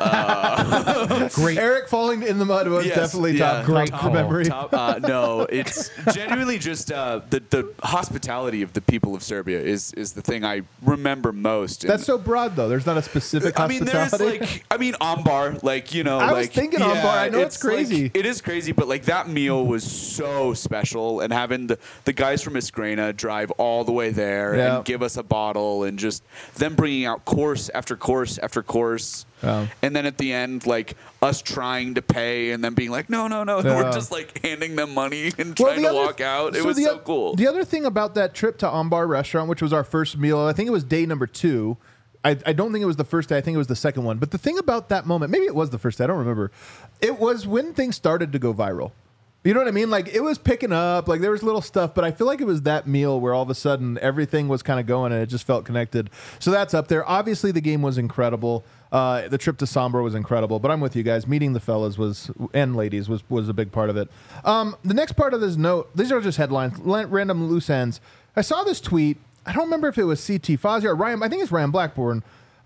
Great. Eric falling in the mud was Yes, definitely yeah, top, Great top call. memory. Top, uh, no, it's genuinely just uh, the the hospitality of the people of Serbia is is the thing I remember most. And That's so broad though. There's not a specific I mean, hospitality. there's like, I mean, Ambar, like, you know, I was like, thinking Ambar. I know it's crazy. like- it is crazy, but like that meal was so special, and having the, the guys from Iskrena drive all the way there Yeah. and give us a bottle, and just them bringing out course after course after course. Yeah. And then at the end, like us trying to pay and then being like, no, no, no. And Yeah. we're just like handing them money and Well, trying the to other- walk out. It so was the so oth- cool. The other thing about that trip to Ambar Restaurant, which was our first meal, I think it was day number two. I, I don't think it was the first day. I think it was the second one. But the thing about that moment, maybe it was the first day. I don't remember. It was when things started to go viral. You know what I mean? Like it was picking up, like there was little stuff, but I feel like it was that meal where all of a sudden everything was kind of going and it just felt connected. So that's up there. Obviously the game was incredible. Uh, the trip to Sombor was incredible, but I'm with you guys. Meeting the fellas was and ladies was was a big part of it. Um, the next part of this note, these are just headlines, la- random loose ends. I saw this tweet. I don't remember if it was C T Fazio or Ryan. I think it's Ryan Blackburn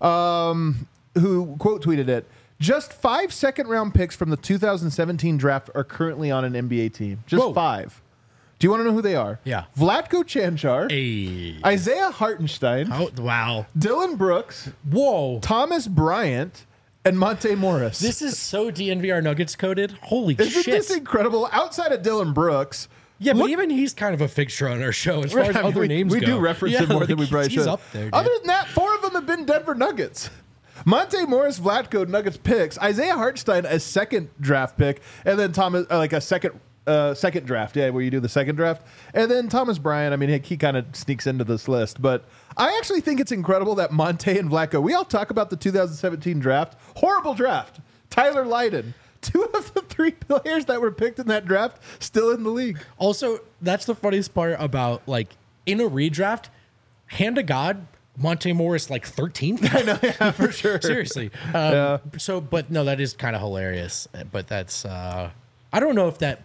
um, who quote tweeted it. Just five second round picks from the two thousand seventeen draft are currently on an N B A team. Just Whoa. five. Do you want to know who they are? Yeah. Vlatko Cancar, Hey. Isaiah Hartenstein, Oh, wow. Dylan Brooks, Whoa. Thomas Bryant, and Monte Morris. This is so D N V R Nuggets coded. Holy Isn't shit. this incredible? Outside of Dylan Brooks, yeah, but look- even he's kind of a fixture on our show as far as I mean, other we, names we go. do reference Yeah, him more like, than we probably he's should. up there, dude. Other than that, four of them have been Denver Nuggets. Monte Morris, Vlatko, Nuggets picks. Isaiah Hartenstein, a second draft pick, and then Thomas, uh, like a second uh, second draft, yeah, where you do the second draft, and then Thomas Bryant. I mean, he, he kind of sneaks into this list, but I actually think it's incredible that Monte and Vlatko. We all talk about the two thousand seventeen draft, horrible draft. Tyler Lydon, two of the three players that were picked in that draft, still in the league. Also, that's the funniest part about, like, in a redraft, hand to God, Monte Morris, like, thirteenth? I know, Yeah, for sure. Seriously. Um, Yeah. So, but no, that is kind of hilarious. But that's, uh, I don't know if that,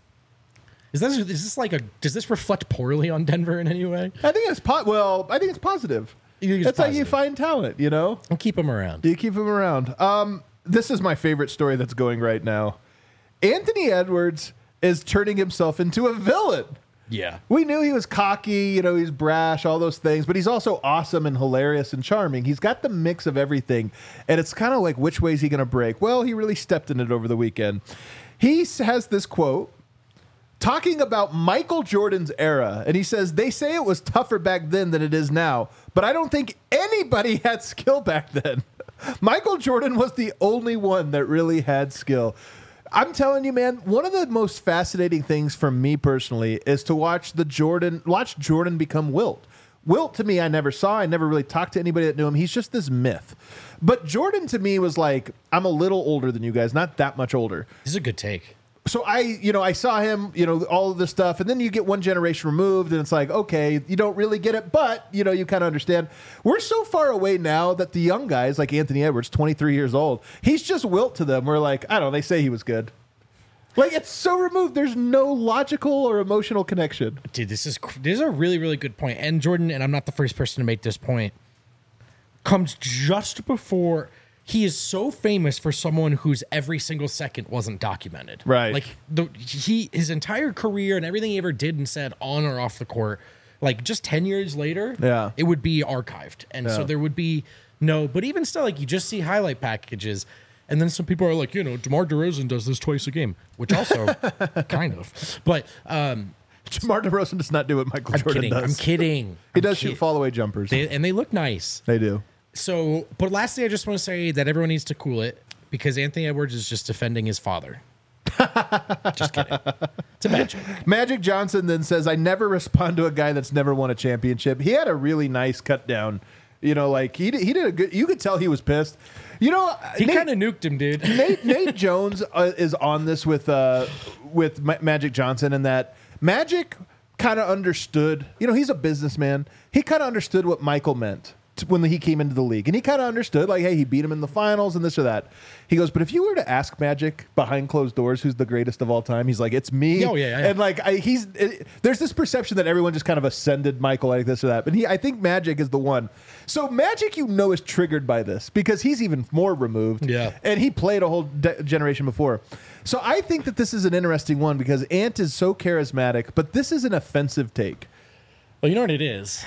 is this, is this like a, does this reflect poorly on Denver in any way? I think it's po- well. I think it's positive. He's That's how you positive. find talent, you know? And keep him around. You keep him around. Um, this is my favorite story that's going right now. Anthony Edwards is turning himself into a villain. Yeah. We knew he was cocky, you know, he's brash, all those things, but he's also awesome and hilarious and charming. He's got the mix of everything, and it's kind of like, which way is he going to break? Well, he really stepped in it over the weekend. He has this quote talking about Michael Jordan's era, and he says, they say it was tougher back then than it is now, but I don't think anybody had skill back then. Michael Jordan was the only one that really had skill. I'm telling you, man, one of the most fascinating things for me personally is to watch the Jordan, watch Jordan become Wilt. Wilt, to me, I never saw. I never really talked to anybody that knew him. He's just this myth. But Jordan, to me, was like, I'm a little older than you guys, not that much older. This is a good take. So I, you know, I saw him, you know, all of this stuff, and then you get one generation removed, and it's like, okay, you don't really get it, but, you know, you kind of understand. We're so far away now that the young guys, like Anthony Edwards, twenty-three years old, he's just Wilt to them. We're like, I don't know, they say he was good. Like, it's so removed. There's no logical or emotional connection. Dude, this is this is a really, really good point. And Jordan, and I'm not the first person to make this point, comes just before... He is so famous for someone whose every single second wasn't documented. Right. Like the he his entire career and everything he ever did and said on or off the court, like just ten years later, Yeah. it would be archived. And so Yeah. there would be no, but even still, like you just see highlight packages, and then some people are like, you know, DeMar DeRozan does this twice a game, which also kind of. But um DeMar DeRozan does not do what Michael I'm Jordan kidding. does. I'm kidding. He I'm does kid- shoot fall away jumpers. They, and they look nice. They do. So, but lastly, I just want to say that everyone needs to cool it because Anthony Edwards is just defending his father. Just kidding. It's a bad joke. Magic Johnson then says, I never respond to a guy that's never won a championship. He had a really nice cut down. You know, like he did, he did a good, you could tell he was pissed. You know, He Nate- kind of nuked him, dude. Nate, Nate Jones uh, is on this with uh, with Ma- Magic Johnson, and that Magic kind of understood. You know, he's a businessman. He kind of understood what Michael meant t- when he came into the league, and he kind of understood, like, hey, he beat him in the finals and this or that. He goes, but if you were to ask Magic behind closed doors who's the greatest of all time, he's like, it's me. Oh, yeah, yeah, yeah. And like, I, he's it, there's this perception that everyone just kind of ascended Michael like this or that, but he, I think Magic is the one. So Magic, you know, is triggered by this because he's even more removed. Yeah. And he played a whole de- generation before. So I think that this is an interesting one because Ant is so charismatic, but this is an offensive take. Well, you know what it is?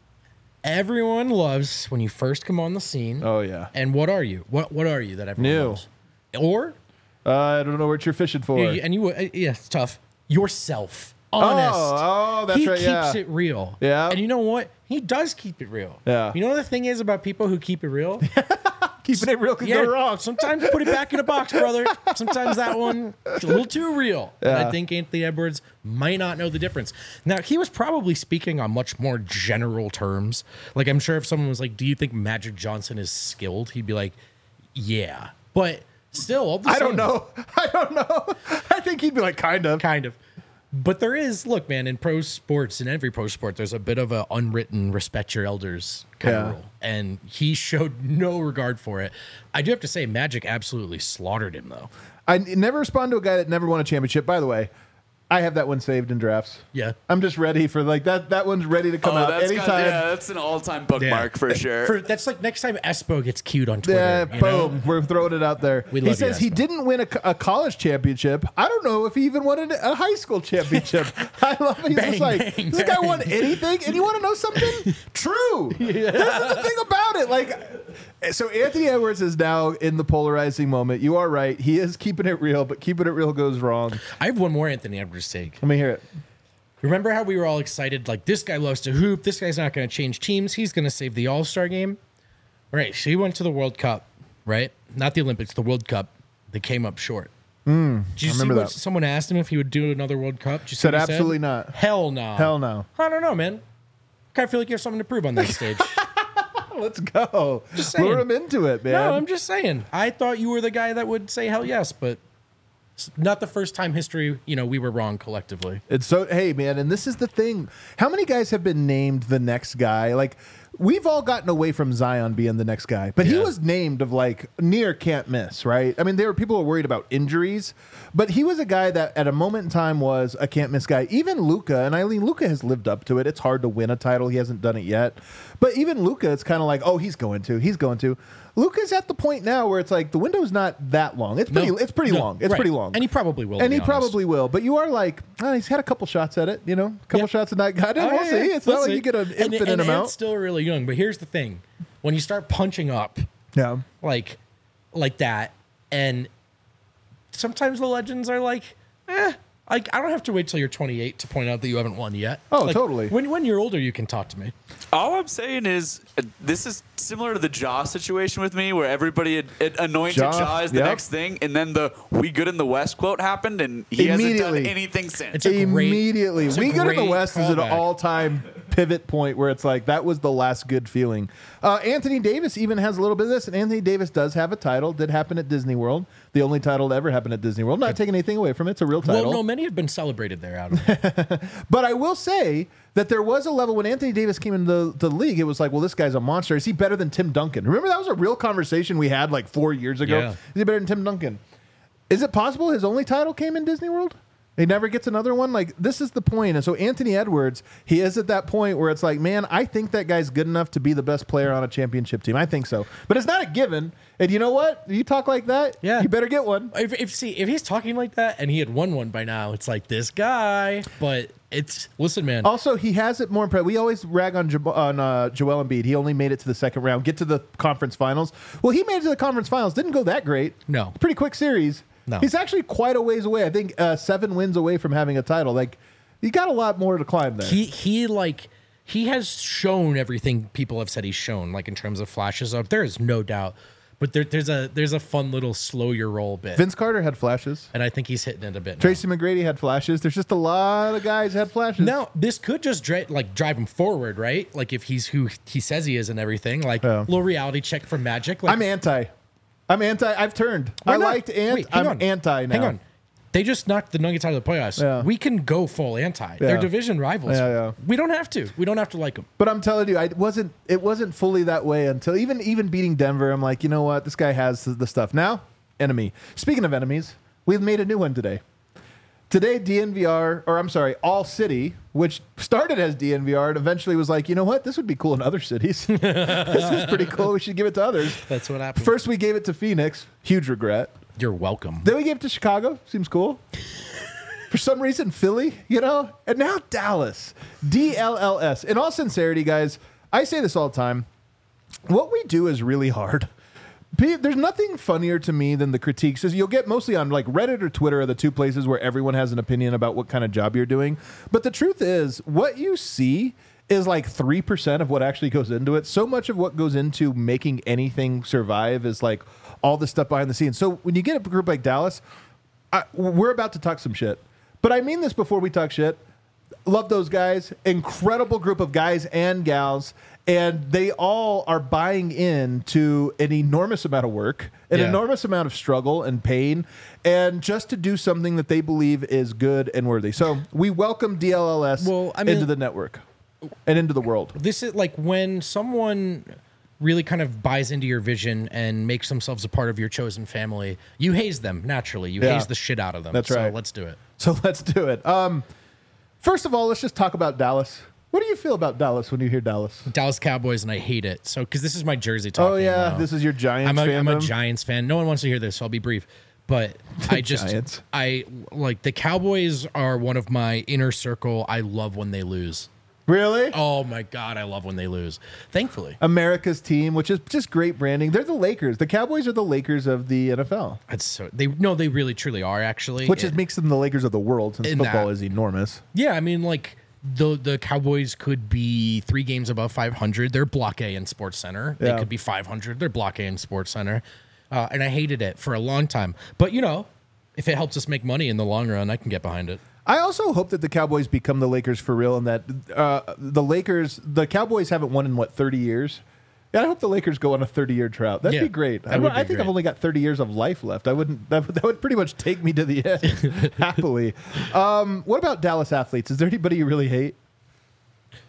Everyone loves when you first come on the scene. Oh, yeah. And what are you? What What are you that everyone New. loves? Or, Uh, I don't know what you're fishing for. you- and you, uh, yeah, it's tough. Yourself. Honest. Oh, oh, that's he right, keeps yeah. it real. Yeah. And you know what? He does keep it real. Yeah. You know what the thing is about people who keep it real? Keeping it real could go wrong. Sometimes put it back in a box, brother. Sometimes that one is a little too real. And Yeah. I think Anthony Edwards might not know the difference. Now, he was probably speaking on much more general terms. Like, I'm sure if someone was like, do you think Magic Johnson is skilled? He'd be like, yeah. But still, all the I don't same- know. I don't know. I think he'd be like, kind of. Kind of. But there is, look, man, in pro sports, in every pro sport, there's a bit of a unwritten respect your elders kind Yeah. of rule. And he showed no regard for it. I do have to say, Magic absolutely slaughtered him, though. I n- never respond to a guy that never won a championship. By the way, I have that one saved in drafts. Yeah. I'm just ready for like that. That one's ready to come Oh, out that's anytime. got, yeah, that's an all-time bookmark for sure. For, that's like next time Espo gets queued on Twitter. Yeah, you know? boom. We're throwing it out there. We he love you, says he Espo. didn't win a, co- a college championship. I don't know if he even won a, a high school championship. I love it. He's Bang, just like, bang, this guy bang. won anything? And you want to know something? True. This is the thing about it. Like, so Anthony Edwards is now in the polarizing moment. You are right. He is keeping it real, but keeping it real goes wrong. I have one more Anthony Edwards take. Let me hear it. Remember how we were all excited? Like, this guy loves to hoop. This guy's not going to change teams. He's going to save the All-Star game. Right. So he went to the World Cup, right? Not the Olympics, the World Cup. They came up short. Mm, Did you I see remember what that. someone asked him if he would do another World Cup? Did you see Said what he absolutely not. Hell no. Hell no. I don't know, man. Kind of feel like you have something to prove on that stage. Let's go. Just saying. Lure him into it, man. No, I'm just saying. I thought you were the guy that would say hell yes, but it's not the first time history, you know, we were wrong collectively. It's so, hey, man, and this is the thing. How many guys have been named the next guy? Like, we've all gotten away from Zion being the next guy, but he Yeah. was named of like near can't miss, right? I mean, there were people who were worried about injuries, but he was a guy that at a moment in time was a can't miss guy. Even Luka, and Eileen, Luka has lived up to it. It's hard to win a title. He hasn't done it yet. But even Luka, it's kind of like, oh, he's going to. He's going to. Luka's at the point now where it's like the window's not that long. It's pretty. No. It's pretty No. long. It's Right. pretty long. And he probably will. to And be he honest. probably will. But you are like, oh, he's had a couple shots at it. You know, a couple Yeah. shots at that guy. Oh, We'll yeah, see. yeah. It's We'll not like see. you get an And- infinite and, amount. Ant's still really young, but here's the thing: when you start punching up yeah. like like that, and sometimes the legends are like, eh. Like, I don't have to wait till you're twenty-eight to point out that you haven't won yet. Oh, Like, totally. When when you're older, you can talk to me. All I'm saying is uh, this is similar to the Jaw situation with me, where everybody had, had anointed Ja, Jaw as the yep. next thing, and then the "We Good in the West" quote happened, and he hasn't done Immediately. anything since. It's a great- Immediately. it's a We Good in the great West is an callback. all-time pivot point where it's like that was the last good feeling. Uh, Anthony Davis even has a little bit of this, and Anthony Davis does have a title. Did happen at Disney World. The only title to ever happen at Disney World. Not taking anything away from it. It's a real title. Well, no, many have been celebrated there, Adam. But I will say that there was a level when Anthony Davis came into the, the league, it was like, well, this guy's a monster. Is he better than Tim Duncan? Remember that was a real conversation we had like four years ago? Yeah. Is he better than Tim Duncan? Is it possible his only title came in Disney World? He never gets another one? Like, this is the point. And so Anthony Edwards, he is at that point where it's like, man, I think that guy's good enough to be the best player on a championship team. I think so. But it's not a given. And you know what? You talk like that, Yeah. you better get one. if, if see if he's talking like that and he had won one by now, it's like this guy. But it's listen, man. Also, he has it more impressive. We always rag on, Jo- on uh, Joel Embiid. He only made it to the second round, get to the conference finals. Well, he made it to the conference finals. Didn't go that great. No. Pretty quick series. No. He's actually quite a ways away. I think uh, seven wins away from having a title. Like, you got a lot more to climb there. He he like he has shown everything people have said he's shown, like in terms of flashes of. There is no doubt. But there, there's a there's a fun little slow your roll bit. Vince Carter had flashes. And I think he's hitting it a bit now. Tracy McGrady had flashes. There's just a lot of guys had flashes. Now, this could just dri- like drive him forward, right? Like if he's who he says he is and everything. Like Yeah. little reality check from Magic. Like, I'm anti. I'm anti. I've turned. Why I not? liked Ant. Wait, hang I'm on. anti now. Hang on. They just knocked the Nuggets out of the playoffs. Yeah. We can go full anti. They're division rivals. Yeah, yeah. We don't have to. We don't have to like them. But I'm telling you, I wasn't. It wasn't fully that way until even even beating Denver. I'm like, you know what? This guy has the, the stuff. Now, enemy. Speaking of enemies, we've made a new one today. Today, D N V R, or I'm sorry, All City, which started as D N V R and eventually was like, you know what? This would be cool in other cities. This is pretty cool. We should give it to others. That's what happened. First, we gave it to Phoenix. Huge regret. You're welcome. Then we gave it to Chicago. Seems cool. For some reason, Philly, you know? And now Dallas. D L L S. In all sincerity, guys, I say this all the time. What we do is really hard. Pe- There's nothing funnier to me than the critiques. You'll get mostly on like Reddit or Twitter are the two places where everyone has an opinion about what kind of job you're doing. But the truth is, what you see is like three percent of what actually goes into it. So much of what goes into making anything survive is like all the stuff behind the scenes. So when you get a group like Dallas, I, we're about to talk some shit. But I mean this before we talk shit. Love those guys. Incredible group of guys and gals. And they all are buying into an enormous amount of work, an Yeah. enormous amount of struggle and pain, and just to do something that they believe is good and worthy. So we welcome D L L S Well, I mean- into the network and into the world. This is like when someone really kind of buys into your vision and makes themselves a part of your chosen family, you haze them naturally. You Yeah. haze the shit out of them. That's so right. let's do it. So let's do it. Um, first of all, let's just talk about Dallas. What do you feel about Dallas when you hear Dallas? Dallas Cowboys, and I hate it. So, because this is my jersey talking. Oh, yeah. now. This is your Giants I'm a, I'm a fandom? Giants fan. No one wants to hear this, so I'll be brief. But I just, Giants. I like the Cowboys are one of my inner circle. I love when they lose. Really? Oh my God, I love when they lose. Thankfully. America's team, which is just great branding. They're the Lakers. The Cowboys are the Lakers of the N F L, That's so they no, they really truly are actually. which It- is, makes them the Lakers of the world since In football that- is enormous. Yeah, I mean, like the the Cowboys could be three games above five hundred. They're Block A in Sports Center. They Yeah. could be five hundred. They're Block A in Sports Center, uh, and I hated it for a long time. But you know, if it helps us make money in the long run, I can get behind it. I also hope that the Cowboys become the Lakers for real, and that uh, the Lakers, the Cowboys haven't won in what thirty years. Yeah, I hope the Lakers go on a thirty-year drought. That'd Yeah, be great. that I, would I be think great. I've only got thirty years of life left. I wouldn't. That, would- that would pretty much take me to the end happily. Um, what about Dallas athletes? Is there anybody you really hate?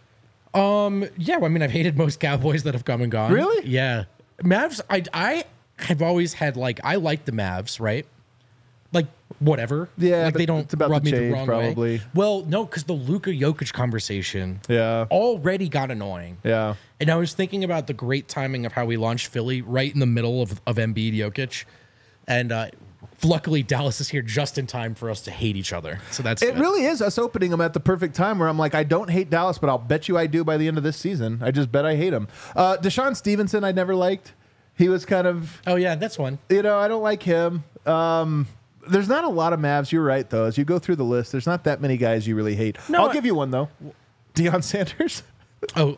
Um, yeah, well, I mean, I've hated most Cowboys that have come and gone. Really? Yeah. Mavs, I, I have always had, like, I like the Mavs, right? Like, whatever. Yeah, like but they don't it's about rub to me change, the wrong probably. way. Well, no, because the Luka Jokic conversation Yeah. already got annoying. Yeah. And I was thinking about the great timing of how we launched Philly right in the middle of, of Embiid Jokic. And uh, luckily, Dallas is here just in time for us to hate each other. So that's It good. really is us opening them at the perfect time where I'm like, I don't hate Dallas, but I'll bet you I do by the end of this season. I just bet I hate him. Uh, Deshaun Stevenson, I never liked. He was kind of, Oh, yeah, that's one. you know, I don't like him. Um, there's not a lot of Mavs. You're right, though. As you go through the list, there's not that many guys you really hate. No, I'll I- give you one, though. Deion Sanders. Oh.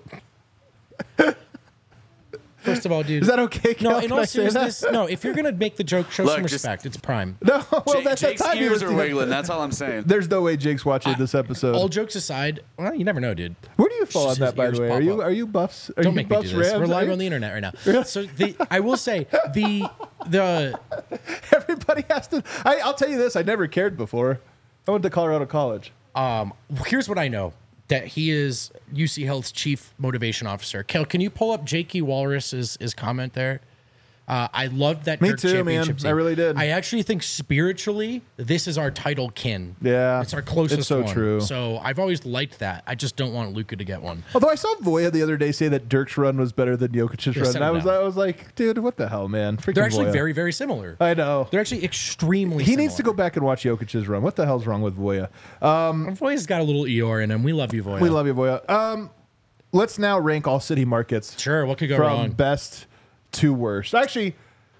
First of all, dude. Is that okay, No, Kel? in Can all I say that? seriousness, no. If you're gonna make the joke, show Look, some just- respect. It's Prime. No, well, Jake, that's Jake's the time he ears was are wiggling. That's all I'm saying. There's no way Jake's watching this episode. All jokes aside, well, you never know, dude. Where do you fall on Just that, his by ears the way? pop Are you up. are you Buffs? Are Don't you make me Buffs do this. Rams? We're Are live you- on the internet right now. So the I will say the the Everybody has to. I, I'll tell you this. I never cared before. I went to Colorado College. um here's what I know. That he is U C Health's chief motivation officer. Kel, can you pull up Jakey Walrus's his comment there? Uh, I loved that Me Dirk too, man. championship team. I really did. I actually think spiritually, this is our title kin. Yeah, It's our closest it's so one. true. So I've always liked that. I just don't want Luka to get one. Although I saw Voya the other day say that Dirk's run was better than Jokic's Yeah, run. send And I him was down. I was like, dude, what the hell, man? Freaking They're actually Voya. very, very similar. I know. They're actually extremely He similar. needs to go back and watch Jokic's run. What the hell's wrong with Voya? Um, Voya's got a little Eeyore in him. We love you, Voya. we love you, Voya. Um, let's now rank all city markets. Sure, what could go from wrong? best to worst. Actually,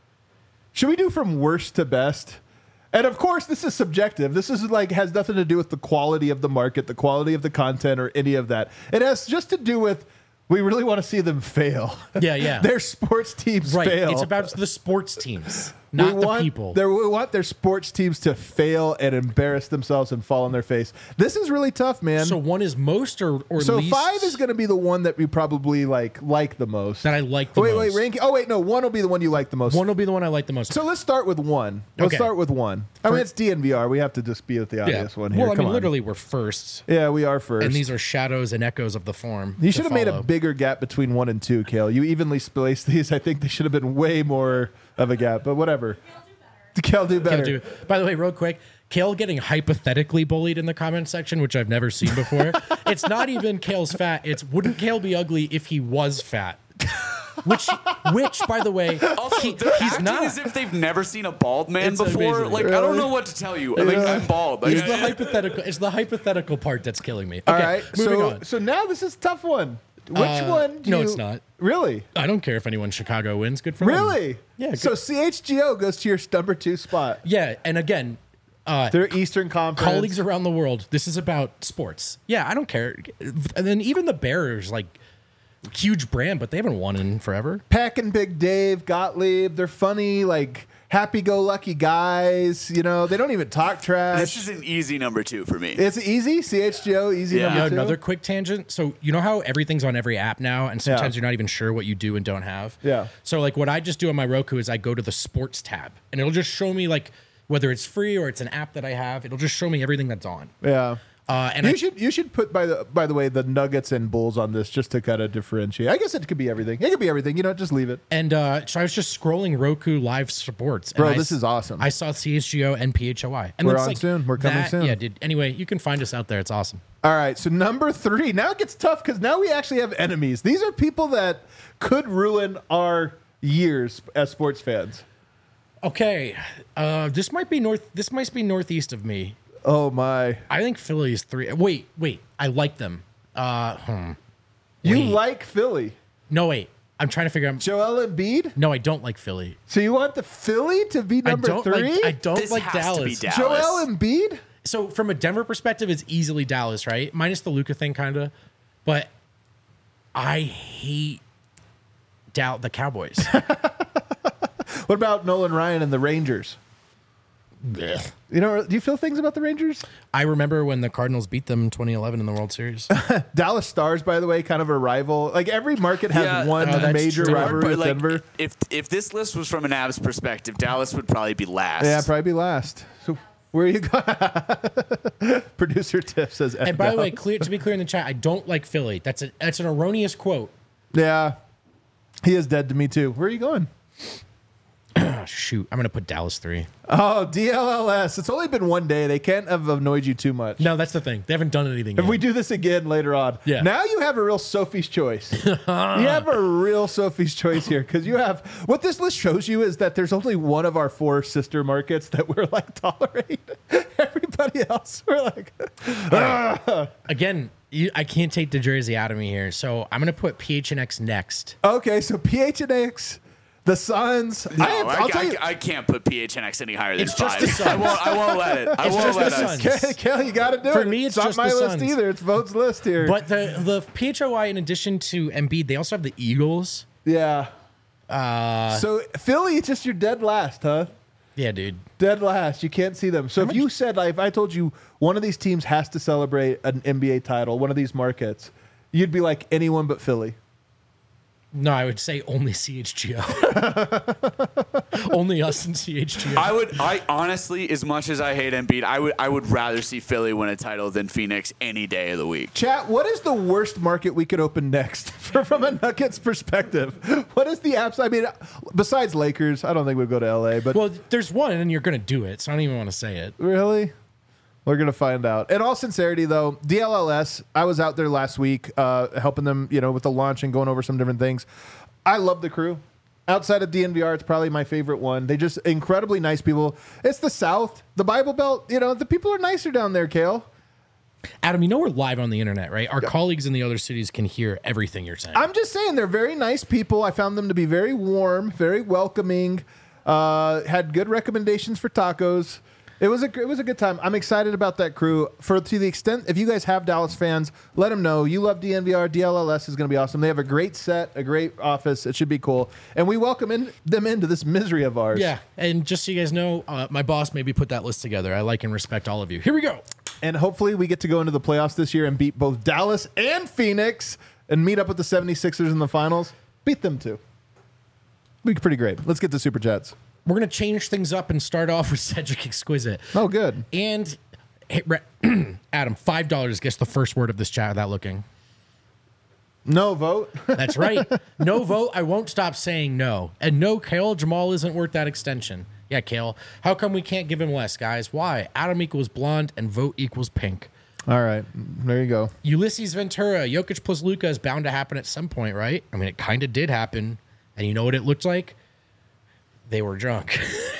should we do from worst to best? And of course, this is subjective. This is like has nothing to do with the quality of the market, the quality of the content, or any of that. It has just to do with we really want to see them fail. Yeah, yeah. Their sports teams Right. fail. It's about the sports teams, not we the want people. Their, we want their sports teams to fail and embarrass themselves and fall on their face. This is really tough, man. So one is most or, or So least five is going to be the one that we probably like like the most. that I like the wait, most. wait, ranking. Oh, wait, no. One will be the one you like the most. One will be the one I like the most. So let's start with one. Let's Okay. start with one. I mean, it's D N V R. We have to just be with the yeah. obvious one here. Well, I Come mean, on. literally, we're first, Yeah, we are first. and these are shadows and echoes of the form. you to should have made a follow. bigger gap between one and two, Kale. You evenly spaced these. I think they should have been way more of a gap, but whatever. Kale do better. Kale do. By the way, real quick, Kale getting hypothetically bullied in the comment section, which I've never seen before. It's not even Kale's fat. It's wouldn't Kale be ugly if he was fat? Which, which, by the way, Also, he- they're he's acting not. as if they've never seen a bald man It's before. amazing. Like I don't know what to tell you. Like Yeah. I'm bald. Like, It's the hypothetical. It's the hypothetical part that's killing me. Okay, All right. moving So, on. so now this is a tough one. Which Uh, one? Do no, you- it's not. Really? I don't care if anyone in Chicago wins. Good for them. Really? Yeah. So good. C H G O goes to your number two spot. yeah, and again, uh, They're Eastern Conference. colleagues around the world. This is about sports. Yeah, I don't care. And then even the Bears, like huge brand, but they haven't won in forever. Peck and Big Dave, Gottlieb. They're funny, like happy-go-lucky guys. You know, they don't even talk trash. this is an easy number two for me. It's easy. C H G O, easy Yeah. number Yeah, two. another quick tangent. So you know how everything's on every app now, and sometimes Yeah. you're not even sure what you do and don't have. Yeah. So like what I just do on my Roku is I go to the sports tab, and it'll just show me like whether it's free or it's an app that I have. It'll just show me everything that's on. Yeah. Uh, and you I, should you should put by the by the way the Nuggets and Bulls on this just to kind of differentiate. I guess it could be everything. It could be everything. You know, just leave it. and uh, so I was just scrolling Roku Live Sports. And Bro, I this s- is awesome. I saw C H G O and P H O I. And We're it's on like soon. We're coming that- soon. Yeah, dude. Anyway, you can find us out there. It's awesome. All right, so number three. Now it gets tough because now we actually have enemies. These are people that could ruin our years as sports fans. Okay, uh, this might be north. This might be northeast of me. Oh my! I think Philly is three. Wait, wait. I like them. Uh, hmm. You Wait. like Philly? No, wait. I'm trying to figure out. Joel Embiid? No, I don't like Philly. So you want the Philly to be number I don't three? like. I don't This like has to Dallas. be Dallas. Joel Embiid? So from a Denver perspective, it's easily Dallas, right? Minus the Luka thing, kind of. But I hate Dal- the Cowboys. What about Nolan Ryan and the Rangers? You know, do you feel things about the Rangers? I remember when the Cardinals beat them in twenty eleven in the World Series. Dallas Stars, by the way, kind of a rival. Like every market has Yeah, one oh, that's major true. rivalry But, with like, Denver. If if this list was from an Avs perspective, Dallas would probably be last. Yeah, probably be last. So Where are you going? Producer Tiff says. And by the way, clear to be clear in the chat, I don't like Philly. That's a that's an erroneous quote. Yeah, he is dead to me too. Where are you going? Oh, shoot, I'm gonna put Dallas three. Oh, D L L S. It's only been one day. They can't have annoyed you too much. No, that's the thing. They haven't done anything If yet. we do this again later on, Yeah. now you have a real Sophie's choice. You have a real Sophie's choice here because you have what this list shows you is that there's only one of our four sister markets that we're like tolerate. Everybody else, we're like, ah. Again, you, I can't take the Jersey out of me here, so I'm gonna put P H N X next. Okay, so P H N X. The Suns. No, I, have, I, I'll tell I, you, I can't put P H N X any higher than It's just five. the Suns. I won't. I won't let it. I It's won't just let the us. Suns. Kelly, Kelly, you got to do For it. me, it's not just my the list Suns. either. It's Vote's list here. But the the P H O I, in addition to Embiid, they also have the Eagles. yeah. Uh, So Philly, it's just your dead last, huh? yeah, dude. Dead last. You can't see them. So if you said, like, if I told you one of these teams has to celebrate an N B A title, one of these markets, you'd be like anyone but Philly. No, I would say only C H G O. Only us and C H G O. I would. I honestly, as much as I hate Embiid, I would. I would rather see Philly win a title than Phoenix any day of the week. Chat, what is the worst market we could open next from a Nuggets perspective? What is the apps? I mean, besides Lakers, I don't think we'd go to L A, but Well, there's one, and you're gonna do it, so I don't even want to say it. really? We're going to find out. In all sincerity, though, D L L S, I was out there last week uh, helping them, you know, with the launch and going over some different things. I love the crew. Outside of D N V R, it's probably my favorite one. They just incredibly nice people. It's the South, the Bible Belt. You know, the people are nicer down there, Kale. Adam, you know we're live on the internet, right? Our colleagues in the other cities can hear everything you're saying. I'm just saying they're very nice people. I found them to be very warm, very welcoming. Uh, had good recommendations for tacos. It was a it was a good time. I'm excited about that crew. For to the extent, if you guys have Dallas fans, let them know you love D N V R. D L L S is going to be awesome. They have a great set, a great office. It should be cool, and we welcome in, them into this misery of ours. Yeah, and just so you guys know, uh, my boss maybe put that list together. I like and respect all of you. Here we go. And hopefully we get to go into the playoffs this year and beat both Dallas and Phoenix and meet up with the seventy-sixers in the finals. Beat them too. Be pretty great. Let's get to Super Chats. We're going to change things up and start off with Cedric Exquisite. Oh, good. And hey, Re- Adam, five dollars gets the first word of this chat without looking. No vote. That's right. No vote. I won't stop saying no. And no, Kale, Jamal isn't worth that extension. Yeah, Kale. How come we can't give him less, guys? Why? Adam equals blonde and vote equals pink. All right. There you go. Ulysses Ventura, Jokic plus Luka is bound to happen at some point, right? I mean, it kind of did happen. And you know what it looked like? They were drunk.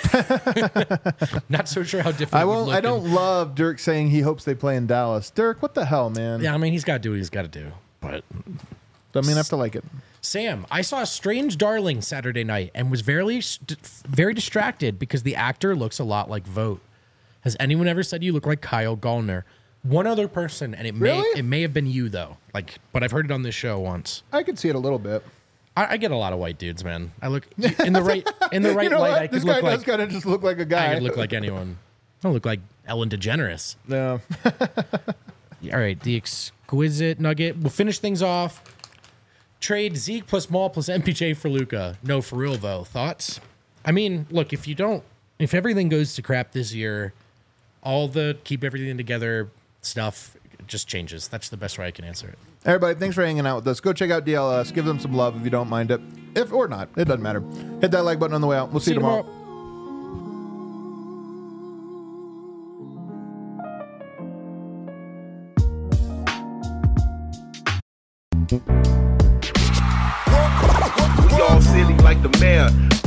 Not so sure how different. I it would won't. look I don't in- love Dirk saying he hopes they play in Dallas. Dirk, what the hell, man? Yeah, I mean, he's got to do what he's got to do. But Don't mean I have to like it. Sam, I saw Strange Darling Saturday night and was very, st- very distracted because the actor looks a lot like Vogt. Has anyone ever said you look like Kyle Gallner? One other person, and it may Really? it may have been you though. Like, but I've heard it on this show once. I could see it a little bit. I, I get a lot of white dudes, man. I look in the right in the right you know light. what? I could This guy look does like kind of just look like a guy. I could look like anyone. I don't look like Ellen DeGeneres. No. All right, the Exquisite Nugget. We'll finish things off. Trade Zeke plus Maul plus M P J for Luka. No, for real though. Thoughts? I mean, look, if you don't, if everything goes to crap this year, all the keep everything together stuff just changes. That's the best way I can answer it. Everybody, thanks for hanging out with us. Go check out D L S. Give them some love if you don't mind it. If or not, it doesn't matter. Hit that like button on the way out. We'll see, you tomorrow. Y'all silly like the mayor.